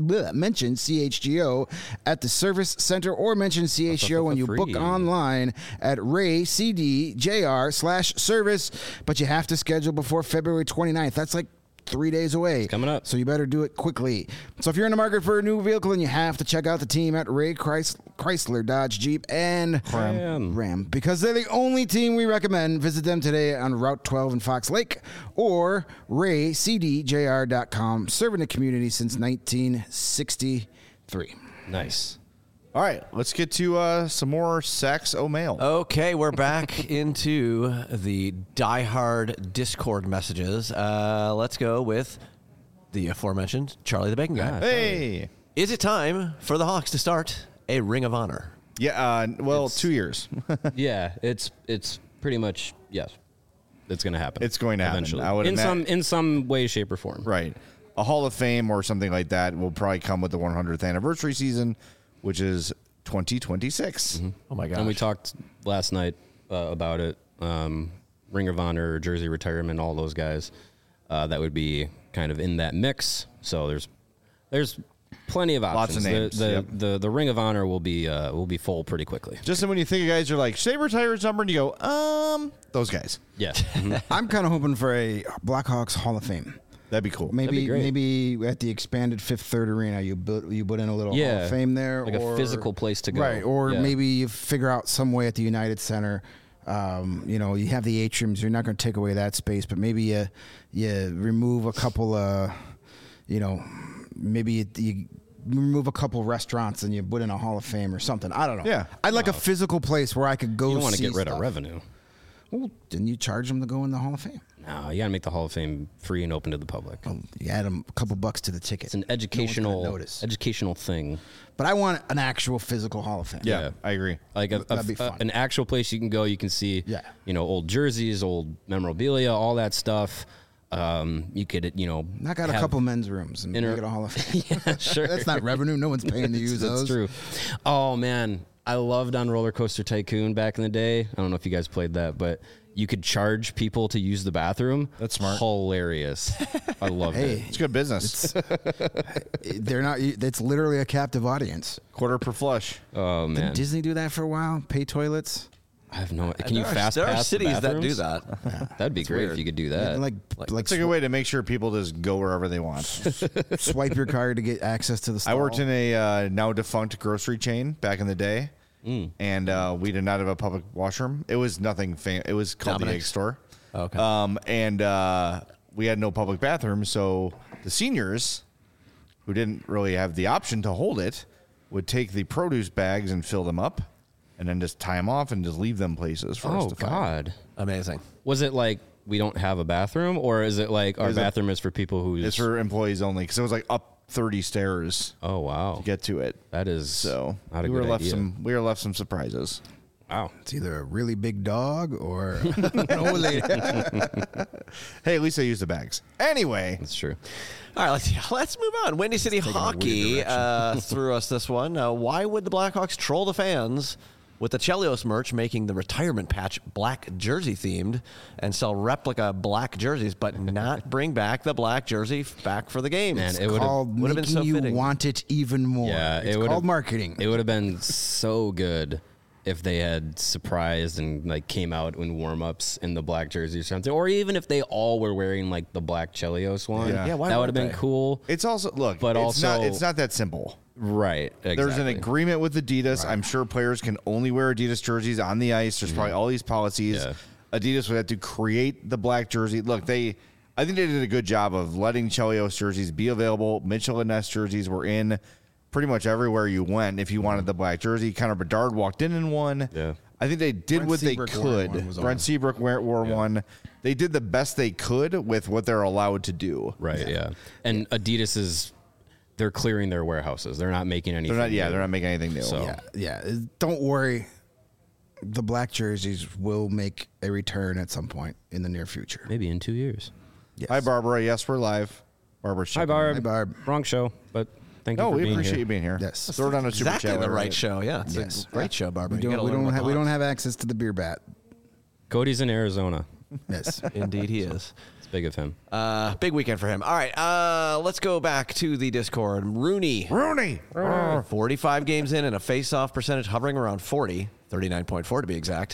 Speaker 4: CHGO at the service center or mention CHGO when you book
Speaker 3: free.
Speaker 4: online at raycd.com. cdjr/service, but you have to schedule before February 29th. That's like 3 days away.
Speaker 3: It's coming up.
Speaker 4: So you better do it quickly. So if you're in the market for a new vehicle, then you have to check out the team at Ray Chrysler, Dodge, Jeep, and Ram. Because they're the only team we recommend. Visit them today on Route 12 in Fox Lake or raycdjr.com. Serving the community since 1963.
Speaker 3: Nice.
Speaker 1: All right, let's get to some more Sax O'Mail.
Speaker 2: Okay, we're back into the diehard Discord messages. Let's go with the aforementioned Charlie the Bacon Guy.
Speaker 1: Hey.
Speaker 2: Is it time for the Hawks to start a Ring of Honor?
Speaker 1: Yeah, 2 years.
Speaker 3: Yeah, it's pretty much, yes. It's going to happen.
Speaker 1: It's going to happen.
Speaker 3: Eventually.
Speaker 1: I would
Speaker 3: in some way, shape, or form.
Speaker 1: Right. A Hall of Fame or something like that will probably come with the 100th anniversary season, which is 2026.
Speaker 3: Mm-hmm.
Speaker 2: Oh, my gosh.
Speaker 3: And we talked last night about it. Ring of Honor, Jersey Retirement, all those guys. That would be kind of in that mix. So there's plenty of options.
Speaker 1: Lots of names.
Speaker 3: The Ring of Honor will be full pretty quickly.
Speaker 1: Just when you think of guys, you're like, should they retire his number? And you go, those guys.
Speaker 3: Yeah. Mm-hmm.
Speaker 4: I'm kind of hoping for a Blackhawks Hall of Fame.
Speaker 1: That'd be cool.
Speaker 3: be great.
Speaker 4: Maybe at the expanded Fifth Third Arena, you put in a little Hall of Fame there,
Speaker 3: like a physical place to go.
Speaker 4: right? Or
Speaker 3: Yeah.
Speaker 4: maybe you figure out some way at the United Center. You have the atriums. You're not going to take away that space, but maybe you remove a couple of, maybe you remove a couple restaurants and you put in a Hall of Fame or something. I don't know.
Speaker 1: Yeah.
Speaker 4: I'd like a physical place where I could go.
Speaker 3: You don't want to
Speaker 4: see
Speaker 3: get rid
Speaker 4: stuff.
Speaker 3: of revenue.
Speaker 4: Well, didn't you charge them to go in the Hall of Fame?
Speaker 3: No, you got to make the Hall of Fame free and open to the public.
Speaker 4: You add them a couple bucks to the ticket.
Speaker 3: It's an
Speaker 4: No one's gonna
Speaker 3: educational
Speaker 4: notice.
Speaker 3: thing.
Speaker 4: But I want an actual physical Hall of Fame.
Speaker 1: Yeah,
Speaker 3: Yeah.
Speaker 1: I agree.
Speaker 3: Like
Speaker 4: That'd be fun.
Speaker 3: an actual place you can go. You can see,
Speaker 4: Yeah.
Speaker 3: old jerseys, old memorabilia, all that stuff. You could,
Speaker 4: Knock out a
Speaker 3: have-
Speaker 4: couple men's rooms and make it a Hall of Fame.
Speaker 3: Yeah, sure.
Speaker 4: That's not revenue. No one's paying to use those.
Speaker 3: That's true. Oh man, I loved on Roller Coaster Tycoon back in the day. I don't know if you guys played that, but you could charge people to use the bathroom.
Speaker 1: That's smart.
Speaker 3: Hilarious. I loved it.
Speaker 1: It's good business.
Speaker 4: They're not. It's literally a captive audience.
Speaker 1: Quarter per flush.
Speaker 3: Oh man,
Speaker 4: Did Disney do that for a while? Pay toilets.
Speaker 3: I have no. Can you
Speaker 2: There are-
Speaker 3: fast
Speaker 2: There are
Speaker 3: pass the
Speaker 2: cities that do
Speaker 3: bathrooms?
Speaker 2: that.
Speaker 3: That'd be great
Speaker 2: weird.
Speaker 3: if you could do that.
Speaker 4: like
Speaker 1: It's a good way to make sure people just go wherever they want.
Speaker 4: swipe your card to get access to the stall.
Speaker 1: I worked in a now defunct grocery chain back in the day, and we did not have a public washroom. It was nothing. It was called the Egg
Speaker 2: Dominic's.
Speaker 1: Store.
Speaker 2: Okay.
Speaker 1: And we had no public bathroom, so the seniors, who didn't really have the option to hold it, would take the produce bags and fill them up, and then just tie them off and just leave them places for us
Speaker 3: Oh
Speaker 1: to find.
Speaker 3: God,
Speaker 2: Amazing.
Speaker 3: was it like we don't have a bathroom, or is it like our
Speaker 1: Is it-
Speaker 3: bathroom is for people who?
Speaker 1: It's for employees only because it was like up 30 stairs
Speaker 3: Oh wow,
Speaker 1: to get to it.
Speaker 3: that is
Speaker 1: So
Speaker 3: not a
Speaker 1: we were
Speaker 3: good
Speaker 1: left
Speaker 3: idea.
Speaker 1: we were left some surprises.
Speaker 3: Wow.
Speaker 4: It's either a really big dog or an old lady.
Speaker 1: Hey, at least I used the bags. Anyway,
Speaker 3: That's true.
Speaker 2: All right, let's move on. Windy City Hockey threw us this one. Why would the Blackhawks troll the fans with the Chelios merch making the retirement patch black jersey themed and sell replica black jerseys, but not bring back the black jersey back for the game?
Speaker 3: Man, it would
Speaker 4: Called
Speaker 2: Would've been
Speaker 4: making
Speaker 2: so
Speaker 4: you
Speaker 2: fitting.
Speaker 4: want it even more.
Speaker 3: Yeah,
Speaker 4: it's
Speaker 3: it would've-
Speaker 4: called marketing.
Speaker 3: It would have been so good if they had surprised and like came out in warm-ups in the black jersey or something, or even if they all were wearing like the black Chelios one.
Speaker 1: Yeah,
Speaker 2: why
Speaker 3: that would have
Speaker 2: weren't
Speaker 3: been
Speaker 2: they?
Speaker 3: cool.
Speaker 1: it's also look,
Speaker 3: But
Speaker 1: it's not that simple.
Speaker 3: Right. Exactly.
Speaker 1: There's an agreement with Adidas. I'm sure players can only wear Adidas jerseys on the ice. There's probably all these policies.
Speaker 3: Yeah.
Speaker 1: Adidas would have to create the black jersey. Look, I think they did a good job of letting Chelios jerseys be available. Mitchell and Ness jerseys were in pretty much everywhere you went if you wanted the black jersey. Connor Bedard walked in one.
Speaker 3: Yeah.
Speaker 1: I think they did
Speaker 4: Brent
Speaker 1: what they
Speaker 4: Seabrook wore
Speaker 1: could.
Speaker 4: one, was
Speaker 1: Brent
Speaker 4: all.
Speaker 1: Seabrook wore one. They did the best they could with what they're allowed to do.
Speaker 3: Right. Yeah. And Adidas they're clearing their warehouses. They're not making anything.
Speaker 1: They're not making anything new.
Speaker 3: So-
Speaker 4: Yeah. Don't worry. The black jerseys will make a return at some point in the near future.
Speaker 3: Maybe in 2 years.
Speaker 4: Yes.
Speaker 1: Hi, Barbara. Yes, we're live. Barbara's
Speaker 3: Hi,
Speaker 1: checking
Speaker 3: Barb.
Speaker 4: Hi, Barb.
Speaker 3: Wrong show, but thank you
Speaker 1: No,
Speaker 3: for
Speaker 1: we
Speaker 3: being
Speaker 1: appreciate
Speaker 3: here.
Speaker 1: you being here.
Speaker 4: Yes.
Speaker 1: Throw it on a super
Speaker 2: Exactly
Speaker 1: chat.
Speaker 2: the
Speaker 1: later.
Speaker 2: right show. Yeah, it's
Speaker 4: Yes.
Speaker 2: a great show, Barbara.
Speaker 4: We
Speaker 2: You gotta
Speaker 4: don't, we,
Speaker 2: learn
Speaker 4: don't
Speaker 2: about
Speaker 4: have,
Speaker 2: the
Speaker 4: we don't
Speaker 2: Hawks.
Speaker 4: have access to the beer bat.
Speaker 3: Cody's in Arizona.
Speaker 4: Yes.
Speaker 2: Indeed, he is.
Speaker 3: It's big of him.
Speaker 2: Big weekend for him. All right, let's go back to the Discord. Rooney, 45 games in and a face-off percentage hovering around 40, 39.4 to be exact.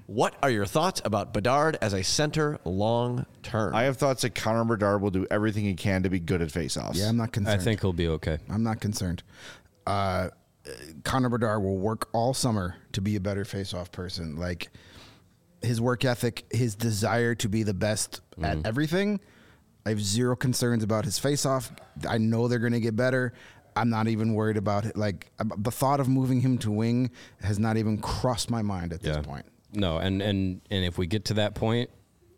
Speaker 2: What are your thoughts about Bedard as a center long term?
Speaker 1: I have thoughts that Connor Bedard will do everything he can to be good at faceoffs.
Speaker 4: Yeah, I'm not concerned.
Speaker 3: I think he'll be okay.
Speaker 4: I'm not concerned. Connor Bedard will work all summer to be a better face-off person. Like his work ethic, his desire to be the best at everything. I have zero concerns about his face-off. I know they're going to get better. I'm not even worried about it. Like the thought of moving him to wing has not even crossed my mind at this point.
Speaker 3: No, and if we get to that point,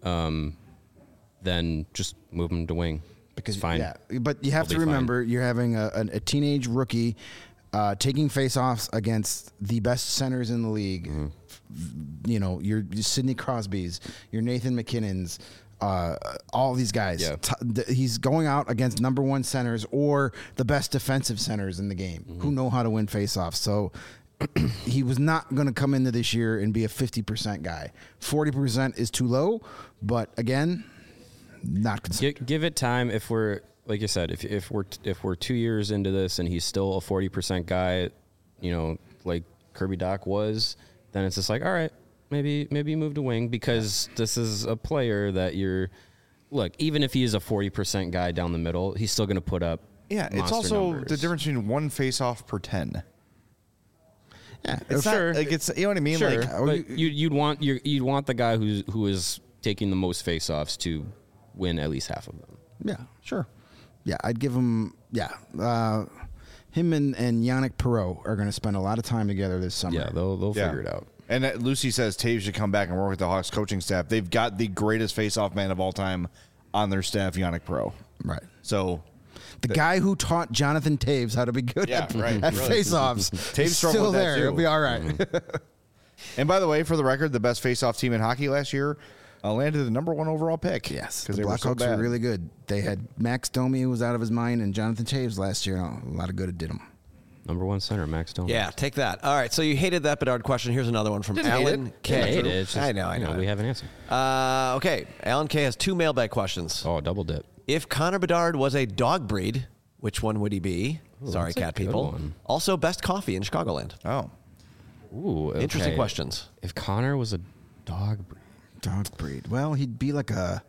Speaker 3: then just move him to wing.
Speaker 4: Because
Speaker 3: it's fine.
Speaker 4: Yeah, but you have to remember you're having a teenage rookie taking face-offs against the best centers in the league. You know, your Sidney Crosby's, your Nathan McKinnon's, all these guys.
Speaker 3: Yeah.
Speaker 4: He's going out against number one centers or the best defensive centers in the game who know how to win face-offs. So he was not going to come into this year and be a 50% guy. 40% is too low, but again, not concerned.
Speaker 3: Give it time. If we're like you said, if we're 2 years into this and he's still a 40% guy, you know, like Kirby Dach was, then it's just like, all right, maybe move to wing, because this is a player that look, even if he is a 40% guy down the middle, he's still going to put up.
Speaker 1: Yeah, it's
Speaker 3: monster
Speaker 1: also
Speaker 3: numbers.
Speaker 1: the difference between one face-off per 10.
Speaker 4: Yeah,
Speaker 1: It's
Speaker 3: Sure.
Speaker 1: not, like it's, you know what I mean?
Speaker 3: Sure,
Speaker 1: Like,
Speaker 3: but you'd want the guy who is taking the most face-offs to win at least half of them.
Speaker 4: Yeah, sure. Yeah, I'd give him. Yeah, him and Yannick Perreault are going to spend a lot of time together this summer.
Speaker 3: Yeah, they'll
Speaker 1: yeah.
Speaker 3: figure it out.
Speaker 1: And Lucy says Taves should come back and work with the Hawks coaching staff. They've got the greatest face-off man of all time on their staff, Yannick Perreault.
Speaker 4: Right.
Speaker 1: So
Speaker 4: the guy who taught Jonathan Taves how to be good at
Speaker 1: really.
Speaker 4: face-offs
Speaker 1: Taves
Speaker 4: is
Speaker 1: struggled
Speaker 4: still
Speaker 1: with that
Speaker 4: there.
Speaker 1: too.
Speaker 4: He'll be all right.
Speaker 1: And by the way, for the record, the best face-off team in hockey last year landed the number 1 overall pick.
Speaker 4: Yes,
Speaker 1: because
Speaker 4: the
Speaker 1: they were so
Speaker 4: Blackhawks were
Speaker 1: bad.
Speaker 4: really good. They had Max Domi, who was out of his mind, and Jonathan Taves last year. A lot of good it did him.
Speaker 3: Number 1 center, Max Domi.
Speaker 2: Yeah, take that. All right, so you hated that Bedard question. Here's another one from
Speaker 1: Didn't hate
Speaker 2: Alan
Speaker 1: it.
Speaker 2: K.
Speaker 3: I hate it. It's just,
Speaker 2: I know.
Speaker 3: we have an answer.
Speaker 2: Okay, Alan K has 2 mailbag questions.
Speaker 3: Oh, double dip.
Speaker 2: If Connor Bedard was a dog breed, which one would he be? Sorry,
Speaker 3: that's a
Speaker 2: cat
Speaker 3: good
Speaker 2: people.
Speaker 3: one.
Speaker 2: Also, best coffee in Chicagoland.
Speaker 1: Oh.
Speaker 3: Ooh, okay.
Speaker 2: Interesting questions.
Speaker 3: If Connor was a dog breed,
Speaker 4: Dog breed. Well, he'd be like a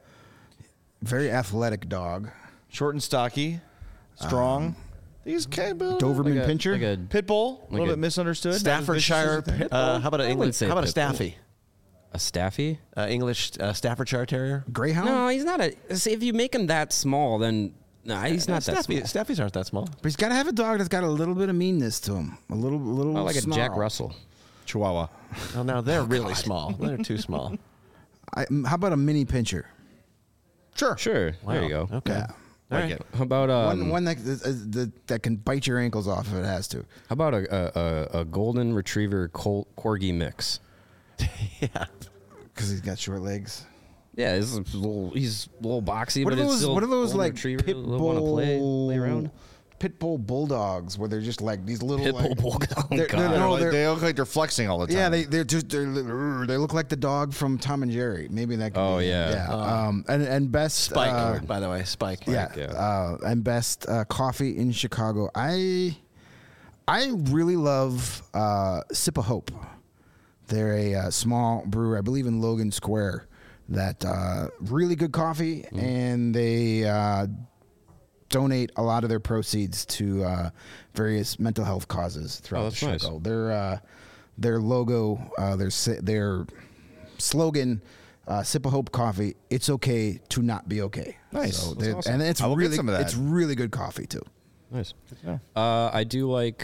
Speaker 4: very athletic dog.
Speaker 1: Short and stocky, strong. These kind of
Speaker 4: Doberman
Speaker 3: like
Speaker 4: Pinscher.
Speaker 3: a
Speaker 1: pit bull, a little
Speaker 3: a
Speaker 1: bit misunderstood.
Speaker 2: Staffordshire. How about an English?
Speaker 3: say
Speaker 2: How about a
Speaker 3: pit bull.
Speaker 2: Staffy?
Speaker 3: a Staffy.
Speaker 2: English Staffordshire Terrier.
Speaker 4: Greyhound.
Speaker 3: No, he's not a. See, if you make him that small, then he's not that small.
Speaker 2: Staffies aren't that small.
Speaker 4: But he's got to have a dog that's got a little bit of meanness to him. A little
Speaker 3: Oh, like a Jack
Speaker 4: snarl.
Speaker 3: Russell.
Speaker 1: Chihuahua.
Speaker 2: Oh, now they're really small. They're too small.
Speaker 4: How about a mini pincher?
Speaker 1: Sure.
Speaker 3: Sure. There you
Speaker 2: Wow.
Speaker 3: go.
Speaker 2: Okay.
Speaker 4: Yeah.
Speaker 2: All
Speaker 1: Like
Speaker 2: right.
Speaker 1: it.
Speaker 3: How about
Speaker 4: One that can bite your ankles off if it has to.
Speaker 3: how about a golden retriever corgi mix?
Speaker 2: Yeah.
Speaker 4: Because he's got short legs.
Speaker 3: Yeah, he's a little boxy,
Speaker 4: What
Speaker 3: but
Speaker 4: are
Speaker 3: it's
Speaker 4: those?
Speaker 3: still
Speaker 4: What are those
Speaker 3: golden
Speaker 4: like
Speaker 3: retriever.
Speaker 4: pit
Speaker 3: They'll wanna play around.
Speaker 4: Pit bull bulldogs where they're just like these little
Speaker 3: Pit bull
Speaker 4: like,
Speaker 3: bulldog. Oh,
Speaker 4: they're-
Speaker 3: God.
Speaker 4: they're- no, they're-
Speaker 1: They look like they're flexing all the time.
Speaker 4: yeah, they look like the dog from Tom and Jerry. Maybe that. Could
Speaker 3: Oh,
Speaker 4: be,
Speaker 3: yeah.
Speaker 4: And best
Speaker 2: Spike, by the way, Spike.
Speaker 4: Yeah,
Speaker 3: yeah.
Speaker 4: And best coffee in Chicago. I really love Sip of Hope. They're a small brewery, I believe, in Logan Square. That really good coffee, and they donate a lot of their proceeds to various mental health causes throughout
Speaker 3: that's
Speaker 4: Chicago. Their logo, their slogan. Sip of Hope coffee. It's okay to not be okay.
Speaker 1: Nice.
Speaker 4: So
Speaker 1: That's awesome.
Speaker 4: and it's
Speaker 1: I will get
Speaker 4: really
Speaker 1: some of that.
Speaker 4: it's really good coffee too.
Speaker 3: Nice. I do like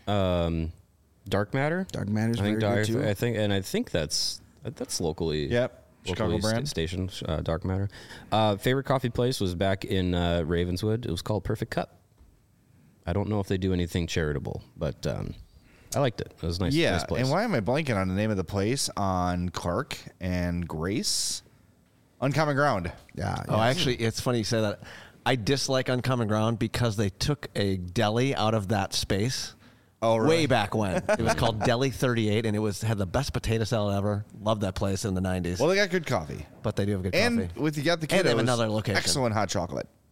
Speaker 3: Dark Matter.
Speaker 4: Dark Matter's
Speaker 3: I think
Speaker 4: very good, too.
Speaker 3: I think that's locally.
Speaker 1: Yep. Chicago
Speaker 3: locally
Speaker 1: brand.
Speaker 3: station. Dark Matter. Favorite coffee place was back in Ravenswood. It was called Perfect Cup. I don't know if they do anything charitable, but I liked it. It was nice.
Speaker 1: Yeah,
Speaker 3: nice place.
Speaker 1: and why am I blanking on the name of the place on Clark and Grace? Uncommon Ground.
Speaker 4: Yeah.
Speaker 2: Oh, actually, it's funny you say that. I dislike Uncommon Ground because they took a deli out of that space.
Speaker 1: Oh, really?
Speaker 2: Way back when. It was called Deli 38, and it had the best potato salad ever. Loved that place in the 90s.
Speaker 1: Well, they got good coffee.
Speaker 2: But they do have good
Speaker 1: And
Speaker 2: coffee.
Speaker 1: with you got the kiddos,
Speaker 2: And they have another location.
Speaker 1: excellent hot chocolate.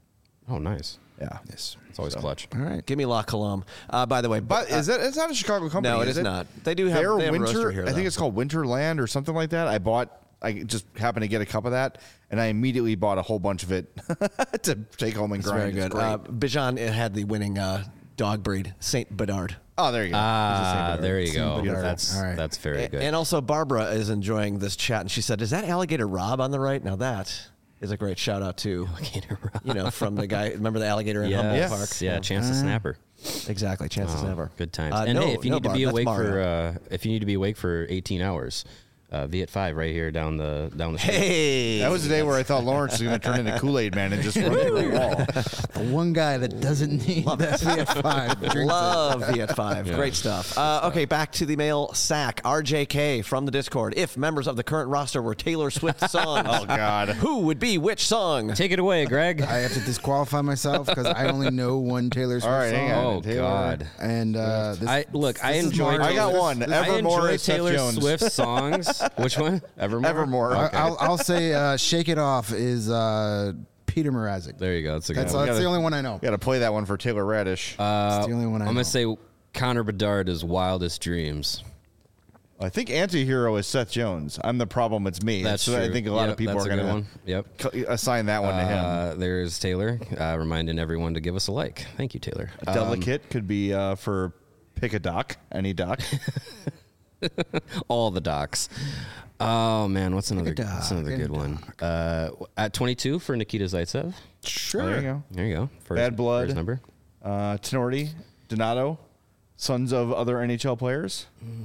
Speaker 3: Oh, nice.
Speaker 1: Yeah.
Speaker 4: Yes.
Speaker 3: It's always clutch.
Speaker 4: All right.
Speaker 2: Give me La Colombe. By the way,
Speaker 1: But is it? It's not a Chicago company.
Speaker 2: no, it
Speaker 1: is
Speaker 2: is not. They do have,
Speaker 1: Their
Speaker 2: they have a
Speaker 1: winter.
Speaker 2: roaster here.
Speaker 1: I think
Speaker 2: though.
Speaker 1: it's called Winterland or something like that. I just happened to get a cup of that, and I immediately bought a whole bunch of it to take home and
Speaker 2: It's
Speaker 1: grind.
Speaker 2: very
Speaker 1: It's
Speaker 2: good.
Speaker 1: great.
Speaker 2: Bijan had the winning dog breed, Saint Bedard.
Speaker 1: Oh, there you go.
Speaker 3: There you go.
Speaker 4: Bedard.
Speaker 3: That's
Speaker 4: All right.
Speaker 3: that's very good.
Speaker 2: And also, Barbara is enjoying this chat, and she said, "Is that Alligator Rob on the right?" Now that is a great shout out to from the guy. Remember the alligator in Humboldt
Speaker 3: Yes.
Speaker 2: Park?
Speaker 3: Yeah, Chance the Snapper.
Speaker 2: Exactly, chances never.
Speaker 3: Good times. And hey, if you need to be awake for 18 hours, Viet 5 right here down the street.
Speaker 2: Hey,
Speaker 1: That was the day where I thought Lawrence was going to turn into Kool-Aid Man and just run through the wall.
Speaker 4: The one guy that doesn't need that Viet 5 drinks
Speaker 2: love Viet 5. Great stuff. Okay, back to the mail sack. RJK from the Discord. If members of the current roster were Taylor Swift songs,
Speaker 1: Oh, God.
Speaker 2: who would be which song?
Speaker 3: Take it away, Greg.
Speaker 4: I have to disqualify myself because I only know one Taylor Swift
Speaker 1: All right,
Speaker 4: song.
Speaker 1: hang on.
Speaker 3: Oh
Speaker 1: Taylor.
Speaker 3: God.
Speaker 4: And
Speaker 3: I
Speaker 4: this is
Speaker 3: enjoy.
Speaker 4: March.
Speaker 1: I got one.
Speaker 3: I
Speaker 1: Evermore
Speaker 3: enjoy
Speaker 1: is Seth
Speaker 3: Taylor
Speaker 1: Jones.
Speaker 3: Swift songs. Which one? Evermore.
Speaker 1: Evermore.
Speaker 3: Okay.
Speaker 4: I'll say "Shake It Off" is Peter Mrazek.
Speaker 3: There you go. That's a good
Speaker 4: That's,
Speaker 3: one.
Speaker 4: that's the only one I know.
Speaker 1: Got to play that one for Taylor Radish.
Speaker 4: It's the only one I
Speaker 3: I'm
Speaker 4: know.
Speaker 3: gonna say Connor Bedard is "Wildest Dreams."
Speaker 1: I think anti-hero is Seth Jones. I'm the problem. It's me.
Speaker 3: That's
Speaker 1: so
Speaker 3: true.
Speaker 1: I think a lot
Speaker 3: Yep,
Speaker 1: of people
Speaker 3: that's
Speaker 1: are
Speaker 3: a good
Speaker 1: going
Speaker 3: one. Yep.
Speaker 1: to assign that one to him.
Speaker 3: There's Taylor reminding everyone to give us a like. Thank you, Taylor.
Speaker 1: Delicate could be for pick a doc, any doc.
Speaker 3: All the docs. Oh man, what's another good one? At 22 for Nikita Zaitsev.
Speaker 4: Sure.
Speaker 1: There you go.
Speaker 3: There you go.
Speaker 1: Bad Blood.
Speaker 3: First number.
Speaker 1: Tenorti, Donato, sons of other NHL players.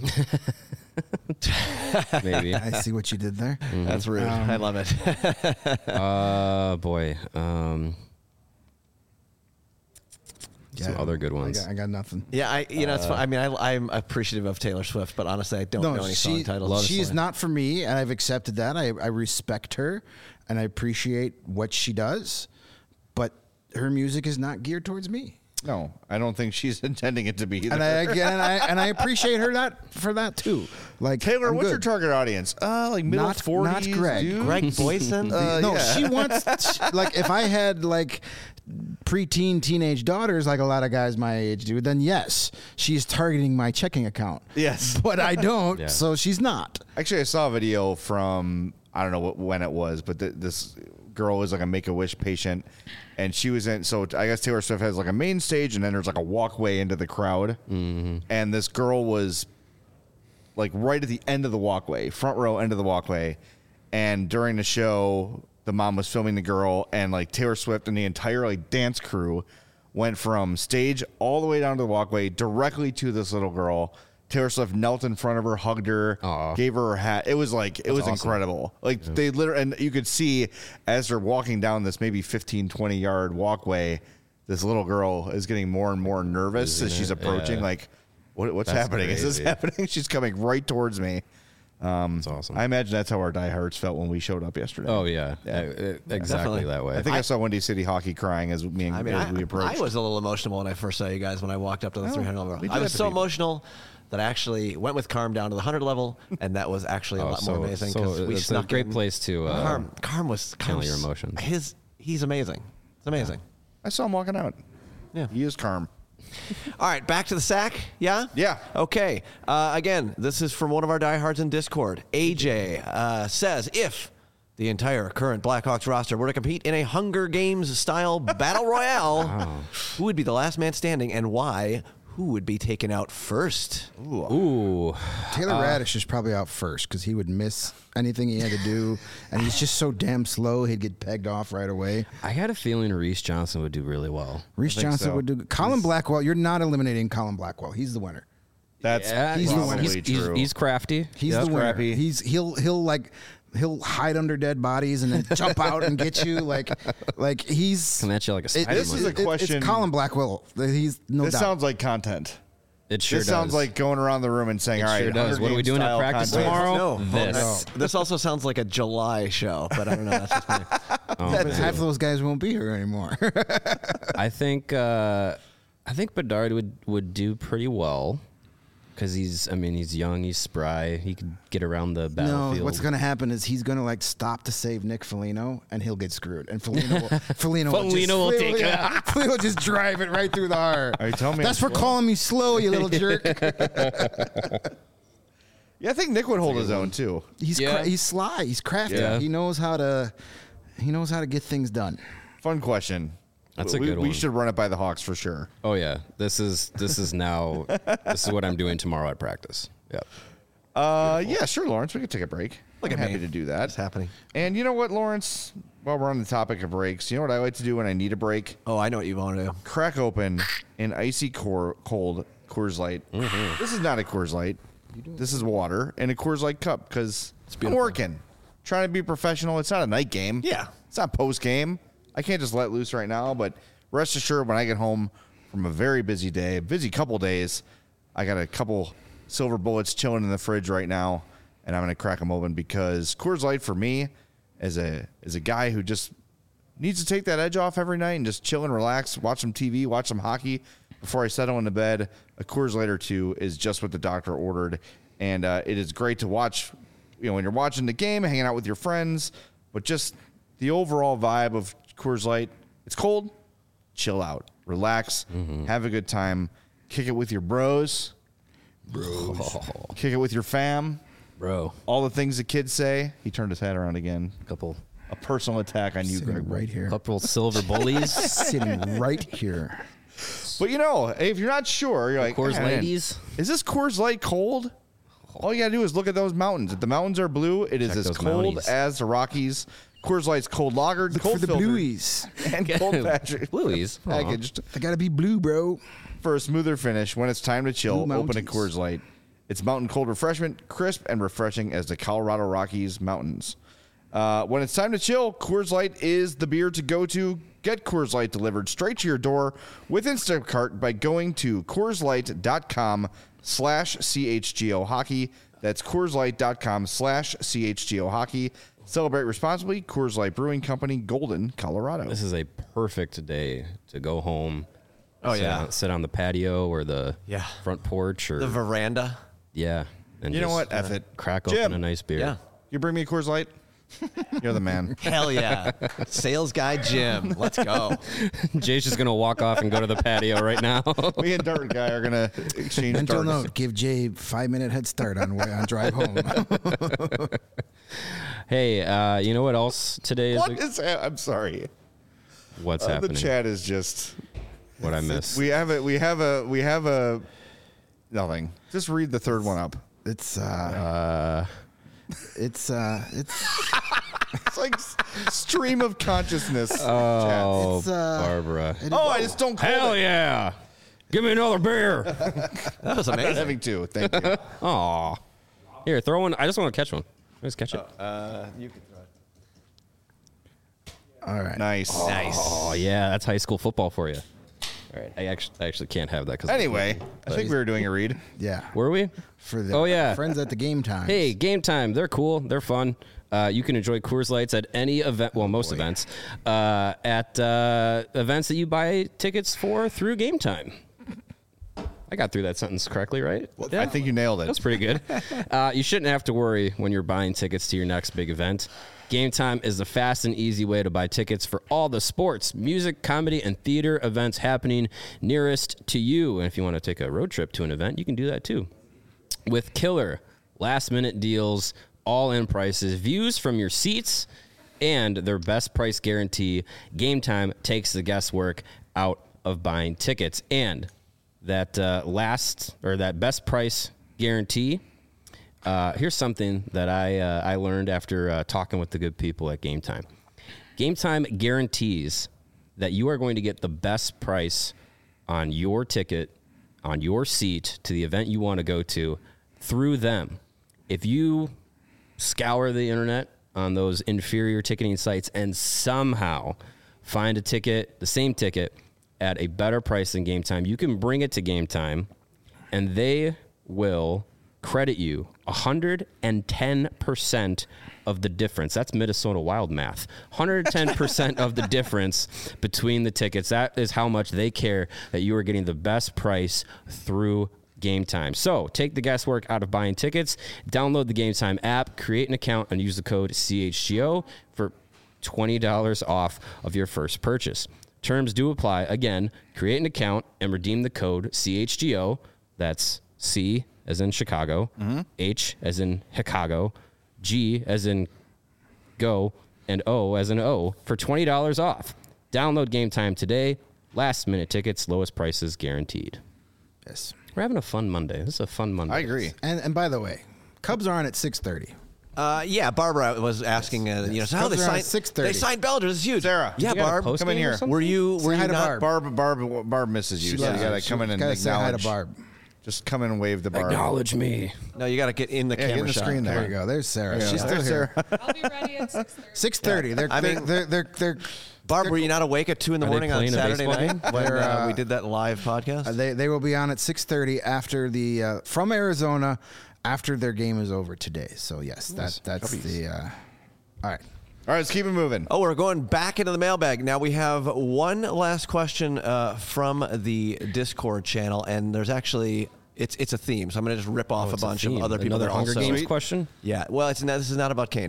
Speaker 3: Maybe.
Speaker 4: I see what you did there.
Speaker 2: That's rude. I love it.
Speaker 3: Boy. Some other good ones.
Speaker 4: I got nothing.
Speaker 2: Yeah, it's fun. I mean, I'm appreciative of Taylor Swift, but honestly, I don't know any song titles.
Speaker 4: She's not for me, and I've accepted that. I respect her, and I appreciate what she does, but her music is not geared towards me.
Speaker 1: No, I don't think she's intending it to be either.
Speaker 4: And I appreciate her for that too. Like
Speaker 1: Taylor,
Speaker 4: I'm
Speaker 1: what's
Speaker 4: good.
Speaker 1: your target audience? Like middle
Speaker 4: Not
Speaker 1: 40s,
Speaker 4: not Greg.
Speaker 1: dude?
Speaker 2: Greg Boyson.
Speaker 4: No,
Speaker 1: yeah.
Speaker 4: she wants like if I had like preteen teenage daughters like a lot of guys my age do, then yes, she's targeting my checking account.
Speaker 1: Yes.
Speaker 4: But I don't,
Speaker 3: Yeah.
Speaker 4: so she's not.
Speaker 1: Actually, I saw a video from, I don't know when it was, but this girl is like a Make-A-Wish patient, and she was in, so I guess Taylor Swift has like a main stage, and then there's like a walkway into the crowd, and this girl was like right at the end of the walkway, front row end of the walkway, and during the show, the mom was filming the girl, and like Taylor Swift and the entire like dance crew went from stage all the way down to the walkway directly to this little girl. Taylor Swift knelt in front of her, hugged her,
Speaker 3: Aw.
Speaker 1: gave her hat. It was like, it was
Speaker 3: awesome.
Speaker 1: incredible. Like they literally, and you could see as they're walking down this maybe 15, 20 yard walkway, this little girl is getting more and more nervous as she's approaching.
Speaker 3: Yeah.
Speaker 1: Like, what's
Speaker 3: That's
Speaker 1: happening? Is this
Speaker 3: crazy.
Speaker 1: happening? She's coming right towards me.
Speaker 3: That's awesome.
Speaker 1: I imagine that's how our diehards felt when we showed up yesterday.
Speaker 3: Oh yeah,
Speaker 1: Yeah.
Speaker 3: exactly
Speaker 2: Definitely.
Speaker 3: that way.
Speaker 1: I think I saw Windy City Hockey crying as me and as we approached.
Speaker 2: I was a little emotional when I first saw you guys when I walked up to the 300 level.
Speaker 1: we do
Speaker 2: I was
Speaker 1: have to
Speaker 2: so
Speaker 1: be.
Speaker 2: emotional that I actually went with Carm down to the 100 level, and that was actually a lot more amazing because we
Speaker 3: it's a
Speaker 2: snuck
Speaker 3: great
Speaker 2: in.
Speaker 3: place to
Speaker 2: Carm was
Speaker 3: channel your emotions.
Speaker 2: He's amazing. It's amazing.
Speaker 1: I saw him walking out.
Speaker 2: Yeah.
Speaker 1: He is calm.
Speaker 2: All right, back to the sack. Yeah?
Speaker 1: Yeah.
Speaker 2: Okay. Again, this is from one of our diehards in Discord. AJ says, if the entire current Blackhawks roster were to compete in a Hunger Games style battle royale, who would be the last man standing and why? Who would be taken out first?
Speaker 3: Ooh,
Speaker 4: Taylor Radish is probably out first because he would miss anything he had to do, and he's just so damn slow. He'd get pegged off right away.
Speaker 3: I had a feeling Reese Johnson would do really well.
Speaker 4: Reese Johnson
Speaker 1: so.
Speaker 4: would do. Colin Blackwell, you're not eliminating Colin Blackwell. He's the winner.
Speaker 1: That's
Speaker 4: he's the winner.
Speaker 1: probably true.
Speaker 3: He's crafty.
Speaker 4: He's
Speaker 1: That's
Speaker 4: the winner.
Speaker 1: crappy.
Speaker 4: He'll hide under dead bodies and then jump out and get you like he's.
Speaker 3: Come at you like a spider
Speaker 1: this is
Speaker 3: monkey.
Speaker 1: a question-
Speaker 4: It's Colin Blackwell. He's no
Speaker 1: this
Speaker 4: doubt.
Speaker 1: sounds like content.
Speaker 3: It sure
Speaker 1: This
Speaker 3: does.
Speaker 1: sounds like going around the room and saying,
Speaker 3: It
Speaker 1: "All right,
Speaker 3: sure does.
Speaker 1: Hunger
Speaker 3: What are we
Speaker 1: Games
Speaker 3: doing at
Speaker 1: style
Speaker 3: practice
Speaker 1: contest."
Speaker 3: tomorrow?
Speaker 2: No.
Speaker 3: This.
Speaker 2: This also sounds like a July show, but I don't know. That's just me.
Speaker 4: But half of those guys won't be here anymore.
Speaker 3: I think Bedard would do pretty well. Because he's young, he's spry. He could get around the
Speaker 4: No,
Speaker 3: battlefield.
Speaker 4: what's going to happen is he's going to like stop to save Nick Foligno, and he'll get screwed. And Foligno
Speaker 3: will take it.
Speaker 4: Foligno will just drive it right through the heart.
Speaker 1: Are you telling me
Speaker 4: That's
Speaker 1: I'm
Speaker 4: for
Speaker 1: slow?
Speaker 4: calling me slow, you little jerk.
Speaker 1: Yeah, I think Nick would hold his own too.
Speaker 4: He's
Speaker 3: Yeah.
Speaker 4: he's sly. He's crafty.
Speaker 3: Yeah.
Speaker 4: He knows how to get things done.
Speaker 1: Fun question.
Speaker 3: That's a good
Speaker 1: We
Speaker 3: one.
Speaker 1: should run it by the Hawks for sure.
Speaker 3: Oh yeah, this is now. This is what I'm doing tomorrow at practice. Yep.
Speaker 1: Yeah, sure, Lawrence. We could take a break.
Speaker 2: Look
Speaker 1: I'm
Speaker 2: at
Speaker 1: happy
Speaker 2: me.
Speaker 1: to do that.
Speaker 2: It's happening.
Speaker 1: And you know what, Lawrence? While we're on the topic of breaks, you know what I like to do when I need a break?
Speaker 2: Oh, I know what you want to do.
Speaker 1: Crack open an icy cold Coors Light. This is not a Coors Light. This is water in a Coors Light cup because I'm
Speaker 2: beautiful.
Speaker 1: working, trying to be professional. It's not a night game.
Speaker 2: Yeah.
Speaker 1: It's not post game. I can't just let loose right now, but rest assured when I get home from a very busy day, busy couple days, I got a couple silver bullets chilling in the fridge right now, and I'm going to crack them open because Coors Light for me as a guy who just needs to take that edge off every night and just chill and relax, watch some TV, watch some hockey before I settle into bed. A Coors Light or two is just what the doctor ordered, and it is great to watch. You know, when you're watching the game, hanging out with your friends, but just the overall vibe of Coors Light. It's cold, chill out, relax, have a good time, kick it with your bros, kick it with your fam.
Speaker 3: Bro,
Speaker 1: All the things the kids say. He turned his hat around again.
Speaker 3: couple
Speaker 1: A personal attack on you, Greg.
Speaker 4: Sitting right here.
Speaker 3: couple silver bullies.
Speaker 4: Sitting right here.
Speaker 1: But you know, if you're not sure, you're like,
Speaker 3: Coors
Speaker 1: "Man,
Speaker 3: ladies."
Speaker 1: is this Coors Light cold? All you gotta do is look at those mountains. If the mountains are blue, it is
Speaker 3: Check
Speaker 1: as
Speaker 3: those
Speaker 1: cold
Speaker 3: Mounties.
Speaker 1: as the Rockies. Coors Light's cold lagered, cold
Speaker 4: For the
Speaker 1: filtered,
Speaker 4: blueies.
Speaker 1: and cold
Speaker 3: Blueies. Aw.
Speaker 1: packaged
Speaker 4: They got to be blue, bro.
Speaker 1: for a smoother finish. When it's time to chill,
Speaker 4: Blue
Speaker 1: open a
Speaker 4: Mounties.
Speaker 1: Coors Light. It's mountain cold refreshment, crisp and refreshing as the Colorado Rockies mountains. When it's time to chill, Coors Light is the beer to go to. Get Coors Light delivered straight to your door with Instacart by going to CoorsLight.com/CHGO Hockey. That's CoorsLight.com/CHGO Hockey. Celebrate responsibly. Coors Light Brewing Company, Golden, Colorado.
Speaker 3: This is a perfect day to go home.
Speaker 2: Oh, yeah.
Speaker 3: sit on the patio or the
Speaker 2: Yeah.
Speaker 3: front porch or
Speaker 2: The veranda.
Speaker 3: yeah. And
Speaker 1: You know
Speaker 3: just
Speaker 1: what? F it.
Speaker 3: Crack
Speaker 1: Jim.
Speaker 3: open a nice beer.
Speaker 2: Yeah.
Speaker 1: You bring me a Coors Light? You're the man.
Speaker 2: Hell yeah. Sales guy Jim. Let's go.
Speaker 3: Jay's just gonna walk off and go to the patio right now.
Speaker 1: Me and Dart Guy are going to exchange
Speaker 4: Mental
Speaker 1: darts.
Speaker 4: note: give Jay 5-minute head start on drive home.
Speaker 3: Hey, you know what else today is?
Speaker 1: What is I'm sorry.
Speaker 3: What's
Speaker 1: The
Speaker 3: happening?
Speaker 1: chat is just
Speaker 3: What I missed?
Speaker 1: we have a nothing. Just read the third one up.
Speaker 4: It's
Speaker 1: It's like stream of consciousness.
Speaker 3: Oh,
Speaker 4: It's,
Speaker 3: Barbara.
Speaker 1: Oh, I just don't call
Speaker 3: Hell
Speaker 1: it.
Speaker 3: yeah! Give me another beer.
Speaker 2: That was
Speaker 1: I'm
Speaker 2: amazing.
Speaker 1: having two. Thank you.
Speaker 3: Aw. Here, throw one. I just want to catch one. Let's catch it.
Speaker 2: You can throw it.
Speaker 4: all right.
Speaker 1: Nice.
Speaker 2: Nice.
Speaker 3: Oh yeah, that's high school football for you. All right, I actually can't have that because
Speaker 1: Anyway, I think we were doing a read.
Speaker 4: Yeah.
Speaker 3: were we?
Speaker 4: For the
Speaker 3: Oh, yeah.
Speaker 4: friends at the game time.
Speaker 3: Hey, Game Time. They're cool. They're fun. You can enjoy Coors Lights at any event. Well, most events. At events that you buy tickets for through Game Time. I got through that sentence correctly, right?
Speaker 1: I think you nailed it.
Speaker 3: That's pretty good. You shouldn't have to worry when you're buying tickets to your next big event. Game Time is the fast and easy way to buy tickets for all the sports, music, comedy, and theater events happening nearest to you. And if you want to take a road trip to an event, you can do that too. With killer last-minute deals, all-in prices, views from your seats, and their best price guarantee, Game Time takes the guesswork out of buying tickets. And that that best price guarantee, here's something that I learned after talking with the good people at Game Time. Game Time guarantees that you are going to get the best price on your ticket, on your seat to the event you want to go to through them. If you scour the internet on those inferior ticketing sites and somehow find a ticket, the same ticket, at a better price than Game Time, you can bring it to Game Time and they will credit you 110% of the difference. That's Minnesota Wild math. 110% of the difference between the tickets. That is how much they care that you are getting the best price through Game Time. So take the guesswork out of buying tickets, download the Game Time app, create an account, and use the code CHGO for $20 off of your first purchase. Terms do apply. Again, create an account and redeem the code CHGO. That's C as in Chicago, H as in Chicago, G as in go, and O as in O for $20 off. Download Game Time today. Last minute tickets, lowest prices guaranteed.
Speaker 4: Yes.
Speaker 3: We're having a fun Monday. This is a fun Monday.
Speaker 1: I agree.
Speaker 4: And by the way, Cubs are on at 6:30.
Speaker 2: Yeah, Barbara was asking, so how they
Speaker 4: Cubs are on at
Speaker 2: signed
Speaker 4: 6:30.
Speaker 2: They signed Bellinger. This is huge.
Speaker 1: Sarah,
Speaker 2: Yeah,
Speaker 3: You got a
Speaker 2: Barb.
Speaker 3: post
Speaker 1: come in
Speaker 3: game or
Speaker 1: here.
Speaker 3: something?
Speaker 2: Were you
Speaker 4: Say hi to
Speaker 2: not?
Speaker 1: Barb misses you.
Speaker 4: She
Speaker 1: So you
Speaker 4: loves
Speaker 1: gotta
Speaker 4: it.
Speaker 1: come in and
Speaker 4: Gotta say hi to
Speaker 1: acknowledge.
Speaker 4: Barb.
Speaker 1: Just come in and wave to Barb.
Speaker 3: Acknowledge me.
Speaker 2: No, you got to get in the
Speaker 1: Yeah, get
Speaker 2: camera
Speaker 1: in the
Speaker 2: shot.
Speaker 1: screen
Speaker 4: There you go. There's Sarah.
Speaker 1: Yeah.
Speaker 4: She's still
Speaker 1: There's
Speaker 4: here.
Speaker 1: Sarah.
Speaker 5: I'll be ready at 6:30.
Speaker 4: 6:30.
Speaker 2: I mean-
Speaker 4: They're
Speaker 2: Barb, were you not awake at 2 in the
Speaker 3: Are they
Speaker 2: morning on
Speaker 3: playing a
Speaker 2: Saturday
Speaker 3: baseball
Speaker 2: night when
Speaker 4: They're,
Speaker 2: we did that live podcast?
Speaker 4: they will be on at 6:30 after the from Arizona after their game is over today. So yes, that's the all right.
Speaker 1: All right, let's keep it moving.
Speaker 2: Oh, we're going back into the mailbag. Now we have one last question from the Discord channel, and there's actually it's a theme. So I'm going to just rip off a
Speaker 3: It's a
Speaker 2: bunch of
Speaker 3: theme.
Speaker 2: other people
Speaker 3: Another
Speaker 2: that
Speaker 3: Hunger
Speaker 2: also
Speaker 3: Games question?
Speaker 2: Yeah, well, this is not about Kane.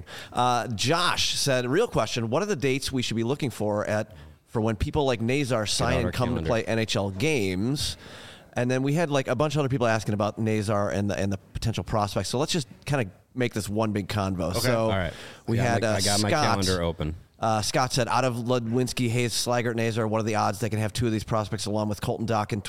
Speaker 2: Josh said, real question: what are the dates we should be looking for when people like Nazar sign
Speaker 3: out
Speaker 2: and
Speaker 3: our
Speaker 2: come
Speaker 3: calendar.
Speaker 2: to play NHL games? And then we had like a bunch of other people asking about Nazar and the potential prospects. So let's just kind of make this one big convo. So
Speaker 3: All right.
Speaker 2: we
Speaker 3: I
Speaker 2: had
Speaker 3: got my
Speaker 2: Scott.
Speaker 3: calendar open.
Speaker 2: Scott said, out of Ludwinski, Hayes, Slaggert, Nazar, what are the odds they can have two of these prospects along with Colton Dock in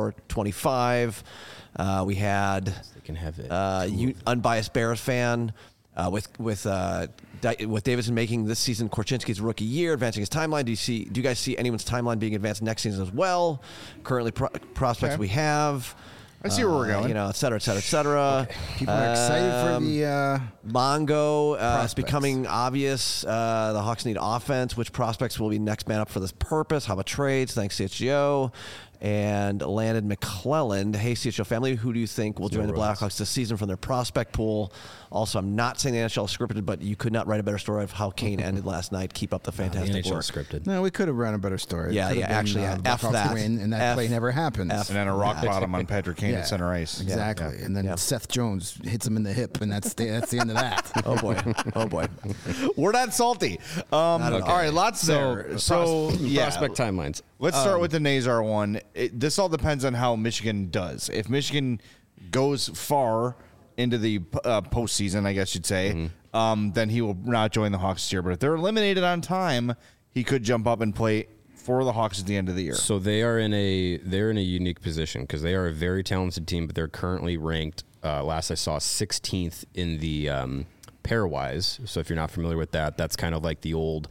Speaker 2: 24-25? We had
Speaker 3: They can have it.
Speaker 2: unbiased Bears fan with Davidson making this season Korchinski's rookie year, advancing his timeline. Do you guys see anyone's timeline being advanced next season as well? Currently, prospects
Speaker 1: Okay.
Speaker 2: we have.
Speaker 1: I see where we're going.
Speaker 2: Et cetera, et cetera, et cetera.
Speaker 4: People are excited for the.
Speaker 2: Mongo it's
Speaker 4: Prospects.
Speaker 2: becoming obvious. The Hawks need offense. Which prospects will be next man up for this purpose? How about trades? Thanks, CHGO. And Landon McClelland. Hey, CHGO family, who do you think will join the Blackhawks this season from their prospect pool? Also, I'm not saying the NHL is scripted, but you could not write a better story of how Kane ended last night. Keep up the
Speaker 3: The
Speaker 2: fantastic
Speaker 3: NHL
Speaker 2: work.
Speaker 3: scripted.
Speaker 4: No, we could have run a better story. It
Speaker 2: Yeah,
Speaker 4: could
Speaker 2: yeah,
Speaker 4: have been,
Speaker 2: actually,
Speaker 4: the
Speaker 2: F
Speaker 4: Blackhawks
Speaker 2: that.
Speaker 4: win, and that
Speaker 2: F-
Speaker 4: play never happens.
Speaker 2: F.
Speaker 1: And then a rock bottom on Patrick Kane at center ice.
Speaker 4: Exactly.
Speaker 1: Yeah.
Speaker 4: And then
Speaker 2: Yeah.
Speaker 4: Seth Jones hits him in the hip, and that's the end of that.
Speaker 2: Oh, boy. Oh, boy.
Speaker 1: We're not salty. All right, lots there. So, yeah.
Speaker 3: Prospect timelines.
Speaker 1: Let's start with the Nazar one. This all depends on how Michigan does. If Michigan goes far into the postseason, I guess you'd say, then he will not join the Hawks this year. But if they're eliminated on time, he could jump up and play for the Hawks at the end of the year.
Speaker 3: So they're in a unique position because they are a very talented team, but they're currently ranked. Last I saw, 16th in the pairwise. So if you're not familiar with that, that's kind of like the old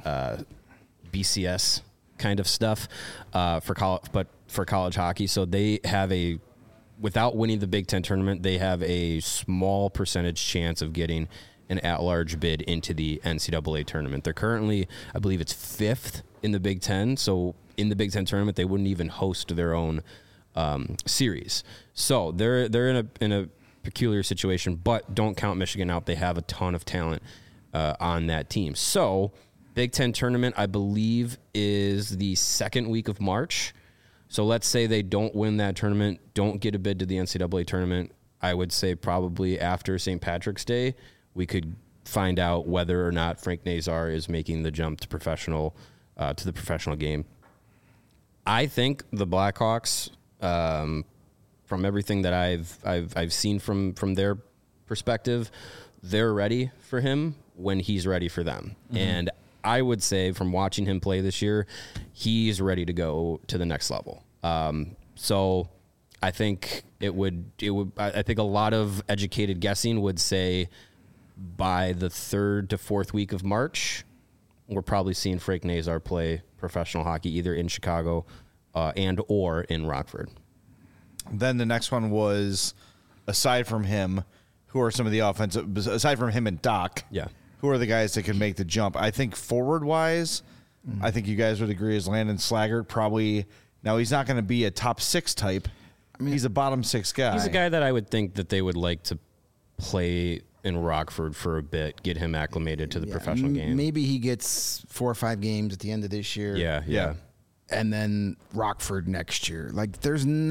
Speaker 3: BCS kind of stuff for college hockey. So they have without winning the Big Ten tournament, they have a small percentage chance of getting an at-large bid into the NCAA tournament. They're currently, I believe it's 5th in the Big Ten. So in the Big Ten tournament, they wouldn't even host their own series. So they're in a peculiar situation, but don't count Michigan out. They have a ton of talent on that team. So Big Ten tournament, I believe, is the second week of March. So let's say they don't win that tournament, don't get a bid to the NCAA tournament. I would say probably after St. Patrick's Day, we could find out whether or not Frank Nazar is making the jump to the professional game. I think the Blackhawks, from everything that I've seen from their perspective, they're ready for him when he's ready for them. And I would say from watching him play this year, he's ready to go to the next level. So I think I think a lot of educated guessing would say by the 3rd to 4th week of March, we're probably seeing Frank Nazar play professional hockey either in Chicago and or in Rockford.
Speaker 1: Then the next one was, aside from him, who are some of the offensive, aside from him and Doc, who are the guys that can make the jump? I think forward-wise, I think you guys would agree is Landon Slaggert probably. Now, he's not going to be a top 6 type. I mean, he's a bottom 6 guy.
Speaker 3: He's a guy that I would think that they would like to play in Rockford for a bit, get him acclimated to the professional game.
Speaker 4: Maybe he gets 4 or 5 games at the end of this year.
Speaker 3: Yeah.
Speaker 4: And then Rockford next year. Like, there's not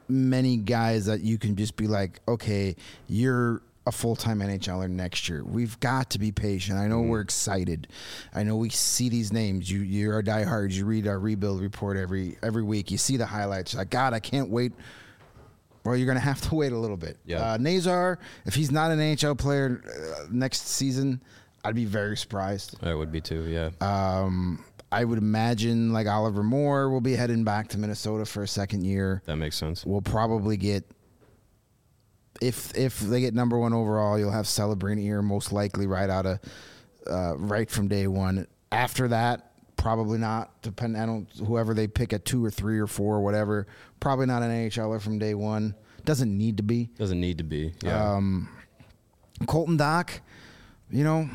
Speaker 4: many guys that you can just be like, okay, you're a full-time NHLer next year. We've got to be patient. I know we're excited. I know we see these names. You're a diehard. You read our rebuild report every week. You see the highlights. You're like, God, I can't wait. Well, you're going to have to wait a little bit.
Speaker 3: Yeah.
Speaker 4: Nazar, if he's not an NHL player next season, I'd be very surprised.
Speaker 3: I would be too. Yeah.
Speaker 4: I would imagine like Oliver Moore will be heading back to Minnesota for a second year.
Speaker 3: That makes sense.
Speaker 4: We'll probably get, if they get number 1 overall, you'll have Celebrini here most likely right from day one. After that, probably not. Depending on whoever they pick at 2 or 3 or 4 or whatever. Probably not an NHLer from day one. Doesn't need to be.
Speaker 3: Doesn't need to be. Yeah.
Speaker 4: Colton Dock, you know,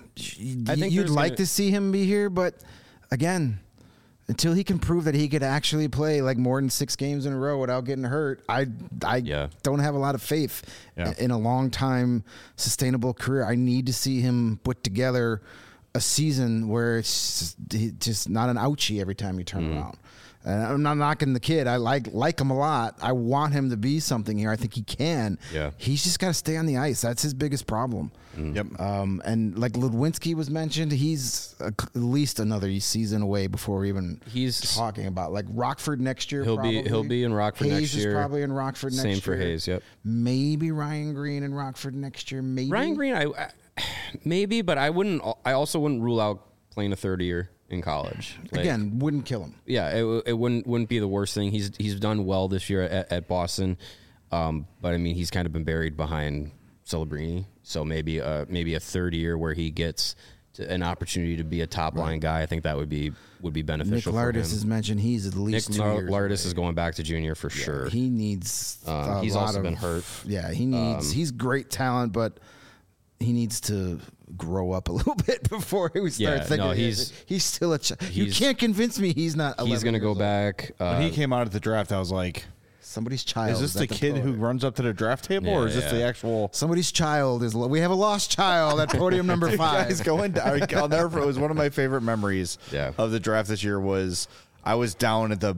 Speaker 3: I think
Speaker 4: you'd like to see him be here, but again, until he can prove that he could actually play like more than 6 games in a row without getting hurt, I don't have a lot of faith in a long time sustainable career. I need to see him put together a season where it's just not an ouchie every time you turn around. And I'm not knocking the kid. I like him a lot. I want him to be something here. I think he can.
Speaker 3: Yeah.
Speaker 4: He's just got to stay on the ice. That's his biggest problem.
Speaker 1: Yep.
Speaker 4: And like Ludwinski was mentioned, he's at least another season away before we're even talking about like Rockford next year.
Speaker 3: He'll be in Rockford
Speaker 4: Hayes
Speaker 3: next year.
Speaker 4: Hayes is probably in Rockford next year.
Speaker 3: Same for Hayes. Yep.
Speaker 4: Maybe Ryan Green in Rockford next year. Maybe
Speaker 3: Ryan Green. I maybe, but I wouldn't. I also wouldn't rule out playing a third year in college. Like,
Speaker 4: again, wouldn't kill him.
Speaker 3: Yeah, it wouldn't be the worst thing. He's done well this year at Boston, but I mean he's kind of been buried behind Celebrini. So maybe a third year where he gets an opportunity to be a top line guy. I think that would be beneficial.
Speaker 4: Nick
Speaker 3: for him.
Speaker 4: Lardis has mentioned he's at least
Speaker 3: Nick
Speaker 4: 2 years
Speaker 3: Lardis
Speaker 4: away.
Speaker 3: is going back to junior for sure.
Speaker 4: He needs.
Speaker 3: He's also been hurt.
Speaker 4: Yeah, he needs. He's great talent, but he needs to grow up a little bit before we start thinking.
Speaker 3: No,
Speaker 4: he's still a child. You can't convince me he's not.
Speaker 3: He's going to go
Speaker 4: old.
Speaker 3: back.
Speaker 1: When he came out at the draft, I was like,
Speaker 4: Somebody's child.
Speaker 1: is this the kid who runs up to the draft table, or is this the actual?
Speaker 4: Somebody's child is. We have a lost child at podium number 5.
Speaker 1: Guys going down. I'll never forget. It was one of my favorite memories of the draft this year. Was I was down at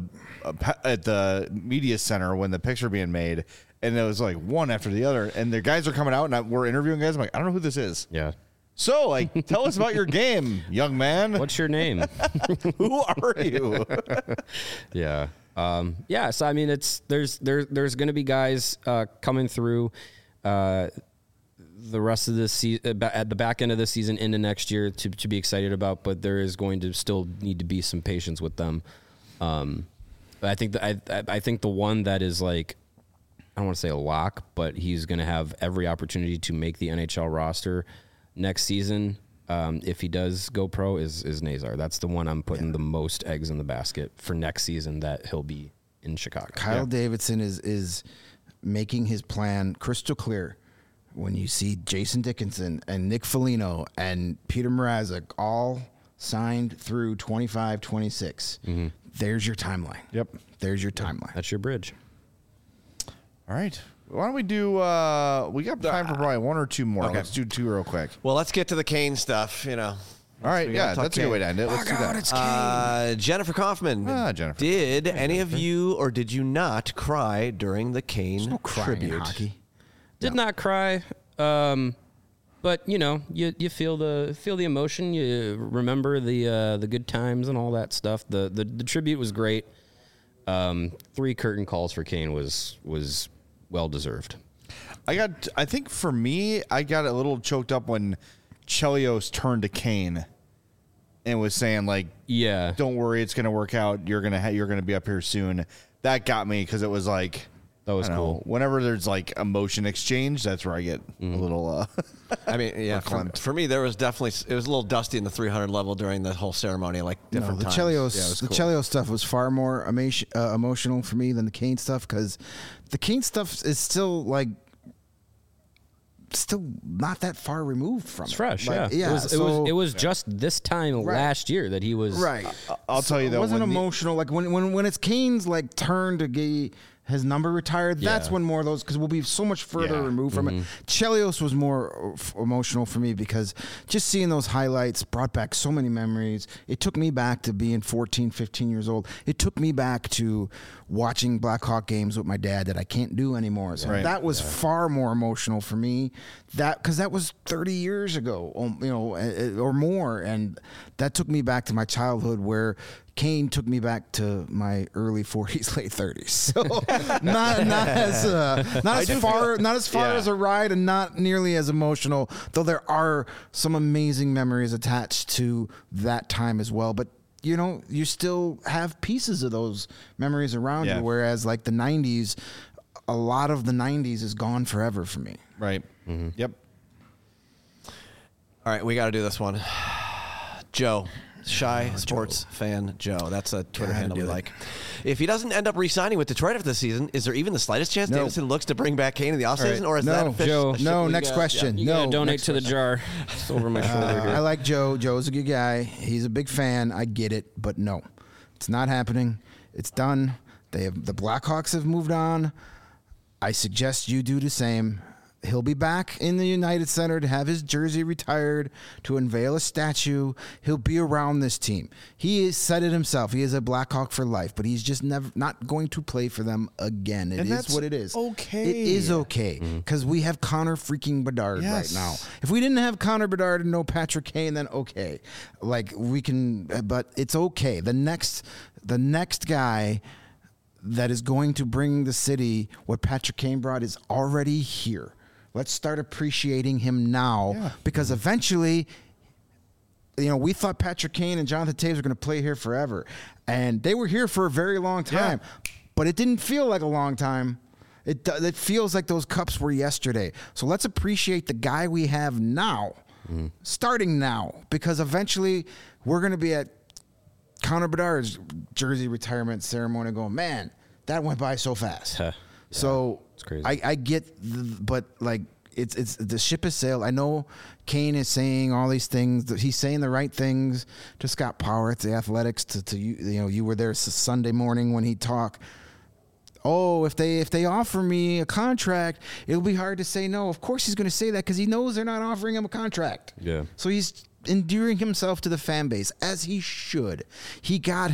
Speaker 1: the media center when the picture being made, and it was like one after the other, and the guys are coming out, and we're interviewing guys. I'm like, I don't know who this is.
Speaker 3: Yeah.
Speaker 1: So, like, tell us about your game, young man.
Speaker 3: What's your name?
Speaker 1: Who are you?
Speaker 3: Yeah. So I mean, there's going to be guys coming through the rest of this season at the back end of the season into next year to be excited about, but there is going to still need to be some patience with them. But I think I think the one that is like, I don't want to say a lock, but he's going to have every opportunity to make the NHL roster next season. If he does go pro, is Nazar. That's the one I'm putting the most eggs in the basket for next season that he'll be in Chicago.
Speaker 4: Kyle Davidson is making his plan crystal clear. When you see Jason Dickinson and Nick Foligno and Peter Mrazek all signed through 25-26, there's your timeline.
Speaker 1: Yep.
Speaker 4: There's your timeline.
Speaker 3: That's your bridge.
Speaker 1: All right. Why don't we do? We got time for probably 1 or 2 more.
Speaker 2: Okay.
Speaker 1: Let's do 2 real quick.
Speaker 2: Well, let's get to the Kane stuff, you know.
Speaker 1: All right.
Speaker 2: We
Speaker 1: Yeah,
Speaker 2: gotta talk
Speaker 1: that's a good way to end it. Let's do that.
Speaker 2: Jennifer Kaufman.
Speaker 1: Jennifer.
Speaker 2: Did any of you or did you not cry during the Kane
Speaker 4: No crying in
Speaker 2: tribute?
Speaker 4: hockey.
Speaker 3: Did not cry, but you know, you feel the emotion. You remember the good times and all that stuff. The tribute was great. 3 curtain calls for Kane was well deserved.
Speaker 1: I think for me, I got a little choked up when Chelios turned to Kane and was saying like,
Speaker 3: Yeah,
Speaker 1: "Don't worry, it's going to work out. You're gonna be up here soon." That got me because it was like,
Speaker 3: that was
Speaker 1: I don't know,
Speaker 3: cool.
Speaker 1: whenever there's like emotion exchange, that's where I get a little.
Speaker 2: I mean, yeah, for me, there was definitely, it was a little dusty in the 300 level during the whole ceremony, like different
Speaker 4: the
Speaker 2: times.
Speaker 4: Chelios stuff was far more emotional for me than the Kane stuff because the Kane stuff is still not that far removed from
Speaker 3: It's
Speaker 4: it.
Speaker 3: fresh.
Speaker 4: Like,
Speaker 3: Yeah, it was just this time last year that he was
Speaker 4: right.
Speaker 1: I'll tell you
Speaker 4: It
Speaker 1: though,
Speaker 4: wasn't
Speaker 1: when
Speaker 4: emotional. Like when it's Kane's like turn to his number retired, that's
Speaker 3: Yeah.
Speaker 4: when more of those, because we'll be so much further removed from it. Chelios was more emotional for me because just seeing those highlights brought back so many memories. It took me back to being 14, 15 years old. It took me back to watching Blackhawk games with my dad that I can't do anymore. So that was far more emotional for me. Because that was 30 years ago, or more, and that took me back to my childhood where Kane took me back to my early 40s, late 30s. So not as far as a ride, and not nearly as emotional. Though there are some amazing memories attached to that time as well. But you still have pieces of those memories around you. Whereas like the 90s, a lot of the 90s is gone forever for me.
Speaker 1: Right. Yep.
Speaker 2: All right, we got to do this one. Joe, Shy Sports Fan Joe. That's a Twitter handle we like. If he doesn't end up re-signing with Detroit after the season, is there even the slightest chance Davison looks to bring back Kane in the offseason? Or is that a fish?
Speaker 3: Joe.
Speaker 4: No, next question.
Speaker 3: You gotta donate to the jar. It's over my shoulder here.
Speaker 4: I like Joe. Joe's a good guy. He's a big fan. I get it, but no, it's not happening. It's done. The Blackhawks have moved on. I suggest you do the same. He'll be back in the United Center to have his jersey retired, to unveil a statue. He'll be around this team. He has said it himself. He is a Blackhawk for life, but he's just not going to play for them again. It is what it is.
Speaker 1: Okay.
Speaker 4: It is okay because we have Connor freaking Bedard right now. If we didn't have Connor Bedard and no Patrick Kane, then okay. Like we can, but it's okay. The next guy that is going to bring the city what Patrick Kane brought is already here. Let's start appreciating him now because eventually, we thought Patrick Kane and Jonathan Toews were going to play here forever. And they were here for a very long time. But it didn't feel like a long time. It feels like those cups were yesterday. So let's appreciate the guy we have now, starting now, because eventually we're going to be at Connor Bedard's jersey retirement ceremony going, man, that went by so fast. So
Speaker 3: it's crazy.
Speaker 4: I get, but like it's the ship has sailed. I know Kane is saying all these things. He's saying the right things to Scott Power at the Athletics. To you, you were there Sunday morning when he talked. Oh, if they offer me a contract, it'll be hard to say no. Of course he's going to say that because he knows they're not offering him a contract.
Speaker 3: Yeah.
Speaker 4: So he's endearing himself to the fan base as he should. He got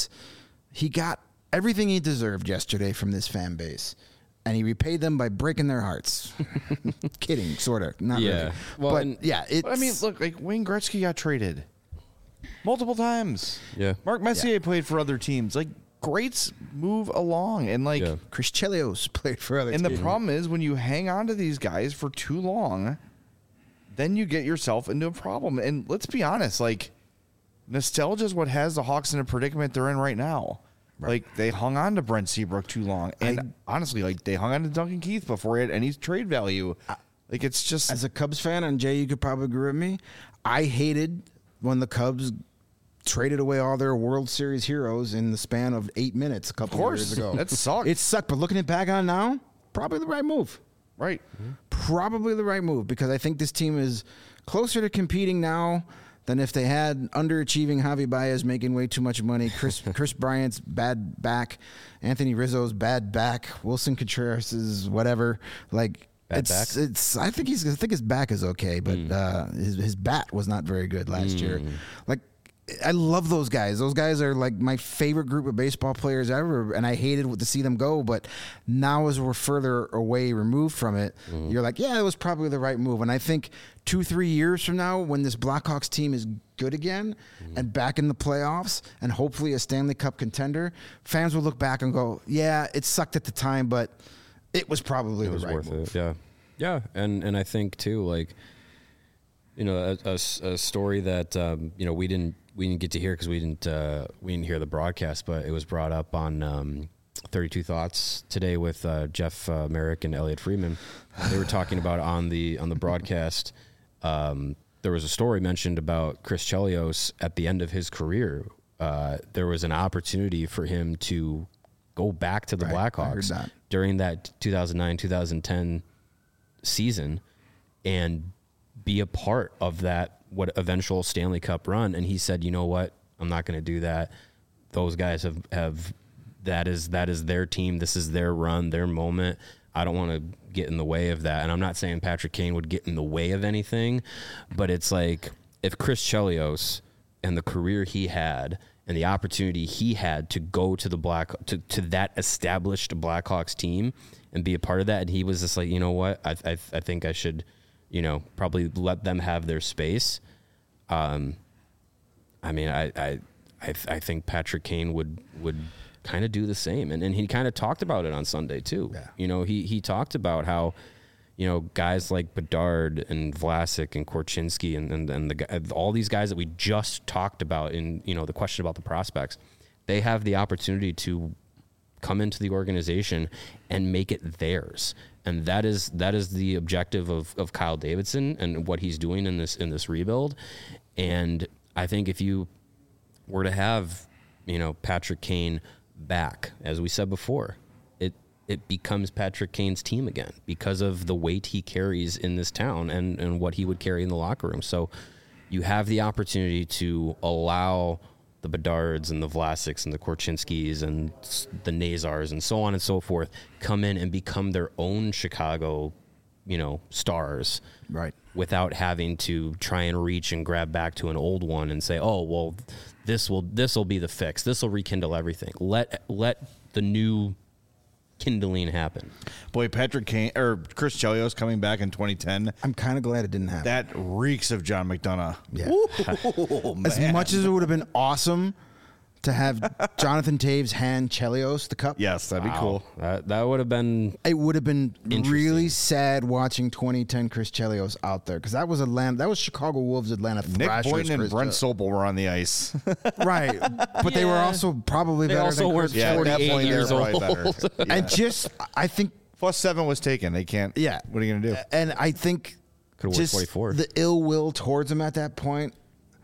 Speaker 4: everything he deserved yesterday from this fan base, and he repaid them by breaking their hearts. Kidding, sort of, not really.
Speaker 3: Well,
Speaker 4: but it's.
Speaker 1: I mean, look, like Wayne Gretzky got traded multiple times.
Speaker 3: Yeah.
Speaker 1: Mark Messier played for other teams. Like, greats move along, and like
Speaker 4: Chris Chelios played for other teams.
Speaker 1: And the problem is when you hang on to these guys for too long, then you get yourself into a problem. And let's be honest, like, nostalgia is what has the Hawks in a predicament they're in right now. Right. Like, they hung on to Brent Seabrook too long. And honestly, like, they hung on to Duncan Keith before he had any trade value. Like, it's just...
Speaker 4: As a Cubs fan, and Jay, you could probably agree with me, I hated when the Cubs traded away all their World Series heroes in the span of 8 minutes a couple of years ago.
Speaker 1: That sucked.
Speaker 4: It sucked, but looking it back on now, probably the right move.
Speaker 1: Right.
Speaker 4: Probably the right move, because I think this team is closer to competing now than if they had underachieving Javi Baez making way too much money, Chris Bryant's bad back, Anthony Rizzo's bad back, Wilson Contreras' whatever. Like, I think his back is okay, but his bat was not very good last year. Like, I love those guys. Those guys are like my favorite group of baseball players ever, and I hated to see them go. But now, as we're further away, removed from it, you're like, yeah, it was probably the right move. And I think 2-3 years from now, when this Blackhawks team is good again and back in the playoffs and hopefully a Stanley Cup contender, fans will look back and go, yeah, it sucked at the time, but it was probably the right move.
Speaker 3: Yeah, and I think too, like, a story that we didn't get to hear because we didn't hear the broadcast, but it was brought up on 32 Thoughts today with Jeff Merrick and Elliot Freeman. They were talking about on the broadcast. There was a story mentioned about Chris Chelios at the end of his career. There was an opportunity for him to go back to the Blackhawks during that 2009-2010 season and be a part of that eventual Stanley Cup run. And he said, you know what, I'm not going to do that. Those guys have that is their team. This is their run, their moment. I don't want to get in the way of that. And I'm not saying Patrick Kane would get in the way of anything, but it's like if Chris Chelios and the career he had and the opportunity he had to go to the to that established Blackhawks team and be a part of that, and he was just like, you know what, I think I should, probably let them have their space. I mean, I think Patrick Kane would kind of do the same, and he kind of talked about it on Sunday too.
Speaker 4: Yeah.
Speaker 3: He talked about how, guys like Bedard and Vlasic and Korchinski and all these guys that we just talked about in the question about the prospects, they have the opportunity to come into the organization and make it theirs. And that is the objective of Kyle Davidson and what he's doing in this rebuild. And I think if you were to have, Patrick Kane back, as we said before, it becomes Patrick Kane's team again because of the weight he carries in this town and what he would carry in the locker room. So you have the opportunity to allow the Bedards and the Vlasics and the Korchinskis and the Nazars and so on and so forth come in and become their own Chicago, stars.
Speaker 4: Right.
Speaker 3: Without having to try and reach and grab back to an old one and say, oh, well, this will be the fix. This will rekindle everything. Let the new kindling happen.
Speaker 1: Boy, Patrick Kane or Chris Chelios coming back in 2010.
Speaker 4: I'm kind of glad it didn't happen.
Speaker 1: That reeks of John McDonough.
Speaker 4: Yeah.
Speaker 1: Ooh,
Speaker 4: As
Speaker 1: man.
Speaker 4: much as it would have been awesome to have Jonathan Taves hand Chelios the cup.
Speaker 1: Yes, that'd be cool.
Speaker 3: That would have been.
Speaker 4: It would have been
Speaker 3: Interesting.
Speaker 4: really sad watching 2010 Chris Chelios out there because that was Chicago Wolves Atlanta
Speaker 1: Nick
Speaker 4: Thrashers.
Speaker 1: Boynton and
Speaker 4: Chris
Speaker 1: Brent
Speaker 4: Chelios.
Speaker 1: Sopel were on the ice.
Speaker 4: Right, but they were
Speaker 3: Yeah.
Speaker 4: also probably
Speaker 3: They
Speaker 4: better
Speaker 3: also
Speaker 4: than
Speaker 3: weren't
Speaker 4: Chris
Speaker 1: Yeah, at that
Speaker 3: 48
Speaker 1: point, they were
Speaker 3: years
Speaker 1: probably
Speaker 3: old.
Speaker 1: better. Yeah.
Speaker 4: And just, I think,
Speaker 1: +7 was taken. They can't.
Speaker 4: yeah.
Speaker 1: What are you going to do?
Speaker 4: And I think
Speaker 3: Could've worked
Speaker 4: just
Speaker 3: 44.
Speaker 4: the ill will towards him at that point,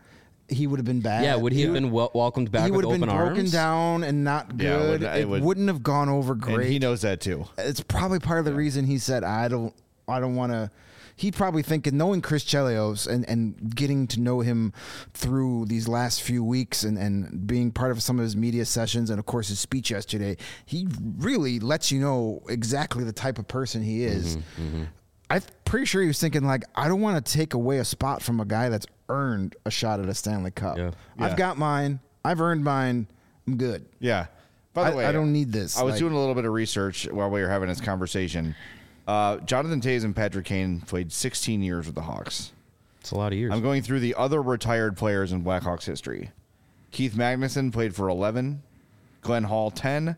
Speaker 4: he would have been bad.
Speaker 3: Yeah, would he have been welcomed back
Speaker 4: He
Speaker 3: with
Speaker 4: would have
Speaker 3: open
Speaker 4: been broken
Speaker 3: arms?
Speaker 4: down and not
Speaker 1: Yeah,
Speaker 4: good.
Speaker 1: it would-
Speaker 4: Wouldn't have gone over
Speaker 1: And
Speaker 4: great.
Speaker 1: he knows that too.
Speaker 4: It's probably part of the reason he said, I don't want to. He probably thinking, knowing Chris Chelios and getting to know him through these last few weeks and being part of some of his media sessions and, of course, his speech yesterday, he really lets you know exactly the type of person he is. I'm pretty sure he was thinking, like, I don't want to take away a spot from a guy that's earned a shot at a Stanley Cup.
Speaker 3: Yeah.
Speaker 1: Yeah.
Speaker 4: I've got mine. I've earned mine. I'm good.
Speaker 1: Yeah. By the way,
Speaker 4: I don't need this.
Speaker 1: I was
Speaker 4: Like-
Speaker 1: doing a little bit of research while we were having this conversation. Jonathan Taves and Patrick Kane played 16 years with the Hawks.
Speaker 3: It's a lot of years.
Speaker 1: I'm going through the other retired players in Blackhawks history. Keith Magnuson played for 11, Glenn Hall 10,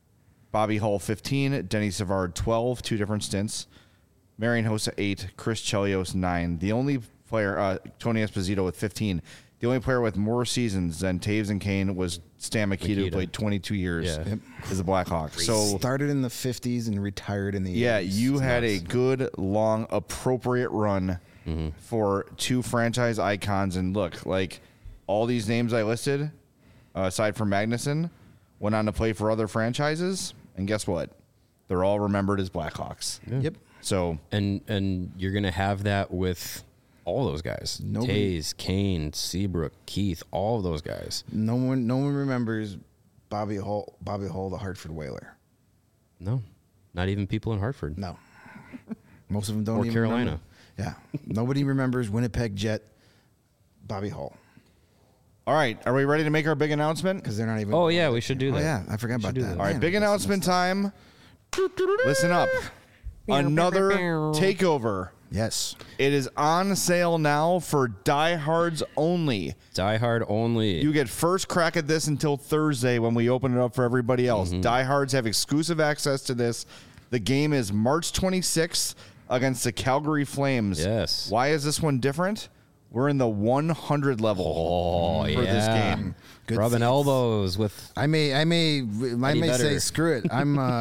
Speaker 1: Bobby Hull 15, Denny Savard 12, two different stints, Marian Hossa 8, Chris Chelios 9. The only player, Tony Esposito with 15. The only player with more seasons than Taves and Kane was Stan Mikita, who
Speaker 3: Mikita.
Speaker 1: played 22 years
Speaker 3: Yeah.
Speaker 1: as a Blackhawk. So
Speaker 4: Started in the 50s and retired in the 80s.
Speaker 1: yeah, you had a good, long, appropriate run for two franchise icons. And look, like all these names I listed, aside from Magnuson, went on to play for other franchises. And guess what? They're all remembered as Blackhawks.
Speaker 4: Yep.
Speaker 1: So
Speaker 3: and you're gonna have that with all those guys.
Speaker 4: Nobody-
Speaker 3: Taves, Kane, Seabrook, Keith, all of those guys.
Speaker 4: No one remembers Bobby Hull, the Hartford Whaler.
Speaker 3: No, not even people in Hartford.
Speaker 4: No. Most of them don't
Speaker 3: Or
Speaker 4: even
Speaker 3: Carolina.
Speaker 4: remember. Yeah. Nobody remembers Winnipeg Jet Bobby Hull
Speaker 1: all right, are we ready to make our big announcement?
Speaker 4: because they're not even.
Speaker 3: Oh yeah, we should do
Speaker 4: Oh
Speaker 3: that.
Speaker 4: yeah, I forgot about
Speaker 3: do
Speaker 4: that.
Speaker 3: that.
Speaker 1: All right,
Speaker 4: Man,
Speaker 1: big
Speaker 4: that's
Speaker 1: announcement
Speaker 4: messed up.
Speaker 1: time. Listen up. Another takeover.
Speaker 4: Yes.
Speaker 1: It is on sale now for diehards only.
Speaker 3: Die Hard only.
Speaker 1: You get first crack at this until Thursday when we open it up for everybody else. Diehards have exclusive access to this. The game is March 26th against the Calgary Flames.
Speaker 3: Yes.
Speaker 1: Why is this one different? We're in the 100 level for this game.
Speaker 4: Good
Speaker 3: Rubbing
Speaker 4: seats.
Speaker 3: elbows with.
Speaker 4: I may
Speaker 3: better.
Speaker 4: say screw it.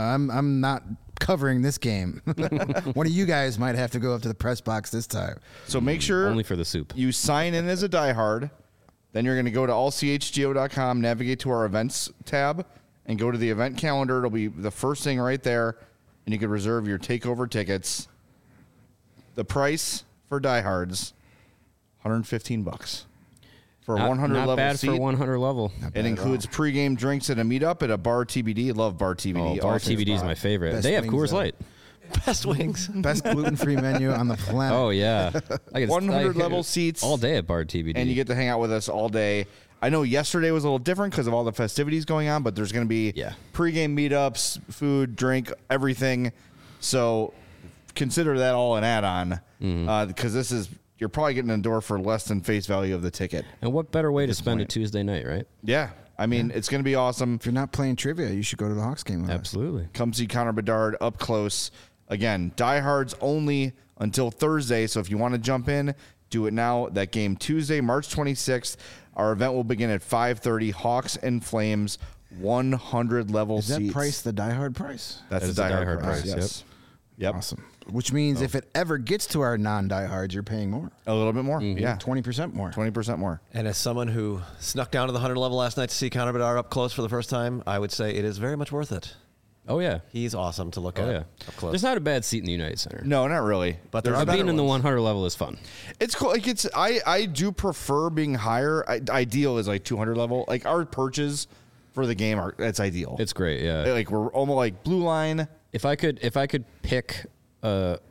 Speaker 4: I'm not covering this game. One of you guys might have to go up to the press box this time.
Speaker 1: So make sure
Speaker 3: Only for the soup.
Speaker 1: you sign in as a diehard. Then you're going to go to allchgo.com, navigate to our events tab, and go to the event calendar. It'll be the first thing right there, and you can reserve your takeover tickets. The price for diehards, $115. for 100
Speaker 3: not
Speaker 1: level
Speaker 3: bad
Speaker 1: seat.
Speaker 3: for 100 level.
Speaker 1: It includes pregame drinks and a meetup at a Bar TBD. Love Bar TBD.
Speaker 3: Oh, Bar
Speaker 1: Awesome
Speaker 3: TBD is
Speaker 1: spot.
Speaker 3: my favorite.
Speaker 4: Best
Speaker 3: They have
Speaker 4: wings,
Speaker 3: Coors
Speaker 4: though.
Speaker 3: Light.
Speaker 2: Best wings.
Speaker 4: Best gluten-free menu on the planet.
Speaker 3: Oh yeah,
Speaker 1: 100 level seats
Speaker 3: all day at Bar TBD.
Speaker 1: and you get to hang out with us all day. I know yesterday was a little different because of all the festivities going on, but there's going to be pregame meetups, food, drink, everything. So consider that all an add-on because this is you're probably getting a door for less than face value of the ticket.
Speaker 3: And what better way to spend a Tuesday night, right?
Speaker 1: Yeah, I mean it's going to be awesome.
Speaker 4: If you're not playing trivia, you should go to the Hawks game with us.
Speaker 3: Absolutely.
Speaker 1: Come see Connor Bedard up close. Again, diehards only until Thursday. So if you want to jump in, do it now. That game Tuesday, March 26th. Our event will begin at 5:30. Hawks and Flames, 100 level
Speaker 4: Is that
Speaker 1: seats.
Speaker 4: price the diehard price?
Speaker 1: That's
Speaker 3: That is
Speaker 1: the
Speaker 3: the
Speaker 1: diehard
Speaker 3: diehard
Speaker 1: price.
Speaker 3: price,
Speaker 1: Yes. Yep.
Speaker 4: Awesome. Which means if it ever gets to our non-diehards, you're paying more.
Speaker 1: A little bit more. Yeah.
Speaker 4: 20% more.
Speaker 1: 20% more.
Speaker 2: And as someone who snuck down to the 100 level last night to see Connor Bedard up close for the first time, I would say it is very much worth it.
Speaker 3: Oh yeah.
Speaker 2: He's awesome to look
Speaker 3: Oh
Speaker 2: at
Speaker 3: yeah.
Speaker 2: up close.
Speaker 3: There's not a bad seat in the United Center.
Speaker 1: No, not really.
Speaker 2: But there are
Speaker 3: But
Speaker 2: better
Speaker 3: being in the
Speaker 2: ones.
Speaker 3: 100 level is fun.
Speaker 1: It's cool. Like I do prefer being higher. Ideal is like 200 level. Like our perches for the game are that's ideal.
Speaker 3: It's great. Yeah.
Speaker 1: like we're almost like blue line.
Speaker 3: If I could pick a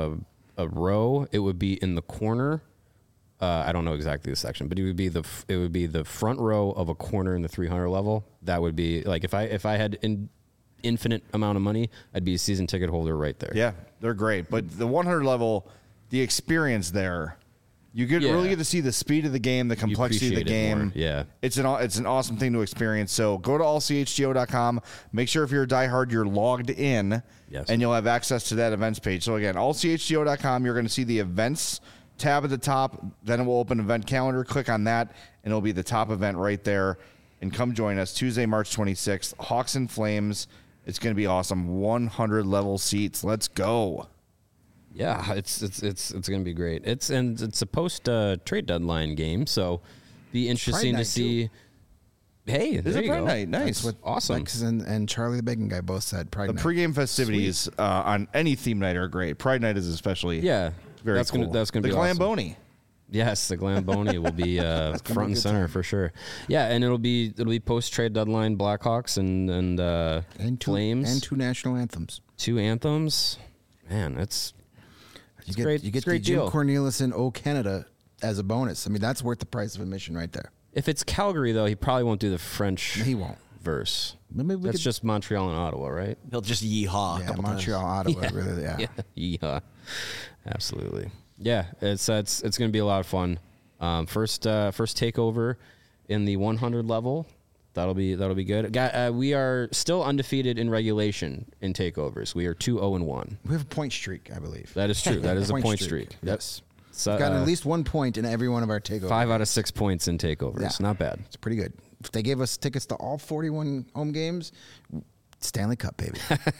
Speaker 3: row, it would be in the corner. I don't know exactly the section, but it would be the front row of a corner in the 300 level. That would be like if I had an infinite amount of money, I'd be a season ticket holder right there.
Speaker 1: Yeah, they're great. But the 100 level, the experience there, you really get to see the speed of the game, the complexity of the
Speaker 3: appreciate it
Speaker 1: game.
Speaker 3: more. Yeah.
Speaker 1: It's an awesome thing to experience. So go to allchgo.com. Make sure if you're a diehard, you're logged in,
Speaker 3: Yes.
Speaker 1: and you'll have access to that events page. So again, allchgo.com, you're going to see the events tab at the top. Then it will open event calendar. Click on that, and it'll be the top event right there. And come join us Tuesday, March 26th. Hawks and Flames. It's going to be awesome. 100 level seats. Let's go.
Speaker 3: Yeah, it's going to be great. It's a post trade deadline game, so be interesting
Speaker 4: night,
Speaker 3: to see. Hey,
Speaker 1: This
Speaker 3: there
Speaker 1: is
Speaker 3: you
Speaker 1: a Pride
Speaker 3: go.
Speaker 1: night. Nice.
Speaker 4: That's what
Speaker 3: Awesome.
Speaker 4: Lex and Charlie the Bacon Guy both said. Pride
Speaker 1: The
Speaker 4: night.
Speaker 1: pregame festivities on any theme night are great. Pride night is especially
Speaker 3: Yeah,
Speaker 1: very
Speaker 3: that's
Speaker 1: cool.
Speaker 3: gonna be
Speaker 1: the
Speaker 3: awesome.
Speaker 1: Glamboni.
Speaker 3: Yes, the Glamboni will be front and center for sure. Yeah, and it'll be post trade deadline Blackhawks and Flames
Speaker 4: and two national anthems.
Speaker 3: 2 anthems. Man, it's
Speaker 4: You get
Speaker 3: great.
Speaker 4: you
Speaker 3: It's
Speaker 4: get
Speaker 3: a great
Speaker 4: the Jim
Speaker 3: deal.
Speaker 4: Cornelison O Canada as a bonus. I mean, that's worth the price of admission right there.
Speaker 3: If it's Calgary though, he probably won't do the French
Speaker 4: He won't.
Speaker 3: verse.
Speaker 4: Maybe we
Speaker 3: That's
Speaker 4: could-
Speaker 3: just Montreal and Ottawa, right?
Speaker 2: He'll just yeehaw a
Speaker 4: Yeah,
Speaker 2: couple
Speaker 4: Montreal, Ottawa, really, yeah.
Speaker 3: Yeah, absolutely. Yeah, it's going to be a lot of fun. First takeover in the 100 level. That'll be good. We are still undefeated in regulation in takeovers. We are 2-0-1.
Speaker 4: We have a point streak, I believe.
Speaker 3: That is true. That is a point streak.
Speaker 4: Yes.
Speaker 3: So,
Speaker 4: We've gotten at least 1 point in every one of our takeovers.
Speaker 3: 5 out of 6 points in takeovers.
Speaker 4: Yeah.
Speaker 3: Not bad.
Speaker 4: It's pretty good. If they gave us tickets to all 41 home games, Stanley Cup, baby.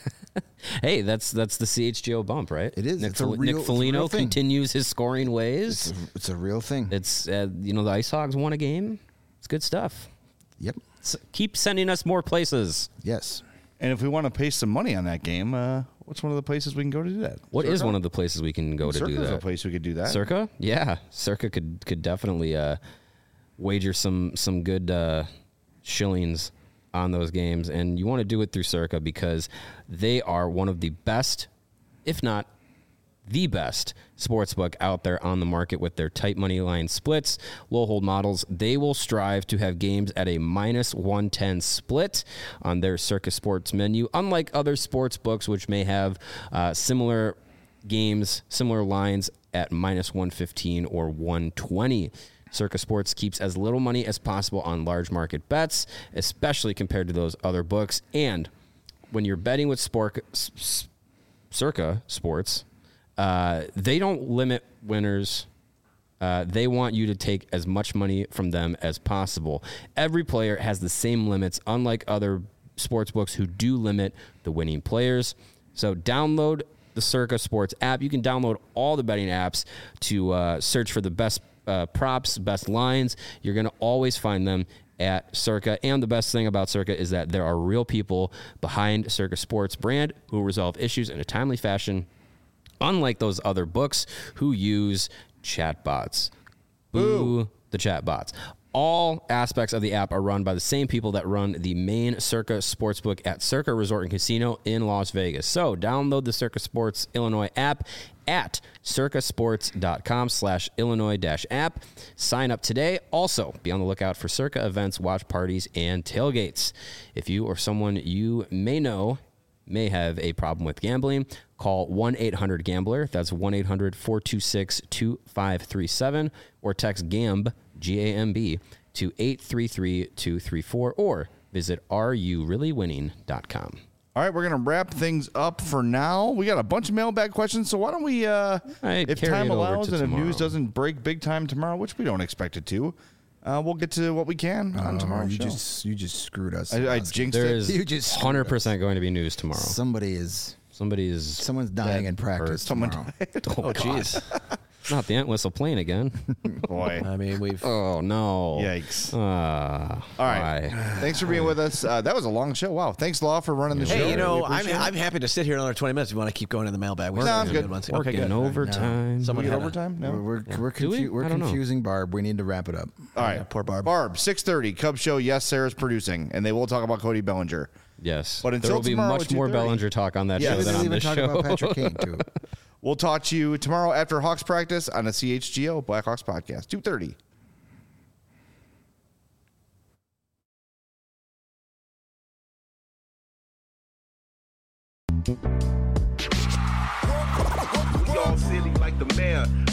Speaker 3: Hey, that's the CHGO bump, right?
Speaker 4: It is.
Speaker 3: Nick,
Speaker 4: It's a real-
Speaker 3: Nick
Speaker 4: it's a real
Speaker 3: Foligno
Speaker 4: thing.
Speaker 3: continues his scoring ways.
Speaker 4: It's a real thing.
Speaker 3: It's the Ice Hogs won a game. It's good stuff.
Speaker 4: Yep.
Speaker 3: Keep sending us more places.
Speaker 4: Yes.
Speaker 1: And if we want to pay some money on that game, what's one of the places we can go to do that?
Speaker 3: What is one of the places we can go to do
Speaker 1: Circa's
Speaker 3: that?
Speaker 1: a place we could do that.
Speaker 3: Circa? Yeah, Circa could definitely wager some good shillings on those games, and you want to do it through Circa because they are one of the best, if not the best, sportsbook out there on the market with their tight money line splits, low hold models. They will strive to have games at a -110 split on their Circa Sports menu, unlike other sports books which may have similar games, similar lines at -115 or 120. Circa Sports keeps as little money as possible on large market bets, especially compared to those other books. And when you're betting with Circa Sports, they don't limit winners. They want you to take as much money from them as possible. Every player has the same limits, unlike other sports books who do limit the winning players. So download the Circa Sports app. You can download all the betting apps to search for the best props, best lines. You're going to always find them at Circa. And the best thing about Circa is that there are real people behind Circa Sports brand who resolve issues in a timely fashion, unlike those other books who use chatbots. Boo the chatbots. All aspects of the app are run by the same people that run the main Circa Sportsbook at Circa Resort and Casino in Las Vegas. So download the Circa Sports Illinois app at circasports.com/Illinois-app. Sign up today. Also, be on the lookout for Circa events, watch parties, and tailgates. If you or someone you may know may have a problem with gambling, call 1-800-GAMBLER. That's 1-800-426-2537, or text GAMB, G-A-M-B, to 833-234, or visit areyoureallywinning.com.
Speaker 1: All right, we're going to wrap things up for now. We got a bunch of mailbag questions, so why don't we, if time allows and if news doesn't break big time tomorrow, which we don't expect it to, we'll get to what we can on tomorrow's show.
Speaker 4: You just screwed us.
Speaker 1: I jinxed
Speaker 3: There
Speaker 1: it.
Speaker 3: is
Speaker 4: You just
Speaker 3: 100% going to be news tomorrow.
Speaker 4: Someone's dying in practice.
Speaker 1: Someone
Speaker 4: tomorrow.
Speaker 2: Oh, jeez.
Speaker 3: Not the ant whistle playing again.
Speaker 1: Boy.
Speaker 2: I mean, we've.
Speaker 3: Oh, no.
Speaker 1: Yikes.
Speaker 3: All
Speaker 1: right. Thanks for being with us. That was a long show. Wow. Thanks, Law, for running the show.
Speaker 2: Hey, you know,
Speaker 1: We appreciate
Speaker 2: I'm happy to sit here another 20 minutes if you want to keep going in the mailbag.
Speaker 1: No, I'm good.
Speaker 2: Okay, good.
Speaker 3: Overtime.
Speaker 2: Someone
Speaker 1: We get
Speaker 2: had a-
Speaker 1: overtime? No?
Speaker 4: We're
Speaker 3: Do we?
Speaker 4: we're
Speaker 3: I don't know.
Speaker 4: confusing Barb. We need to wrap it up.
Speaker 1: All right.
Speaker 2: poor Barb.
Speaker 1: Barb, 6:30, Cubs show. Yes, Sarah's producing, and they will talk about Cody Bellinger.
Speaker 3: Yes.
Speaker 1: But until
Speaker 3: there will be
Speaker 1: tomorrow
Speaker 3: much
Speaker 1: at
Speaker 3: more
Speaker 1: 2:30.
Speaker 3: Bellinger talk on that
Speaker 1: Yeah,
Speaker 3: show
Speaker 1: they
Speaker 3: than
Speaker 4: We'll
Speaker 3: on
Speaker 4: even
Speaker 3: this
Speaker 4: talk
Speaker 3: show.
Speaker 4: about Patrick Kane too.
Speaker 1: We'll talk to you tomorrow after Hawks practice on the CHGO Blackhawks podcast, 2:30.
Speaker 5: We all silly like the mayor.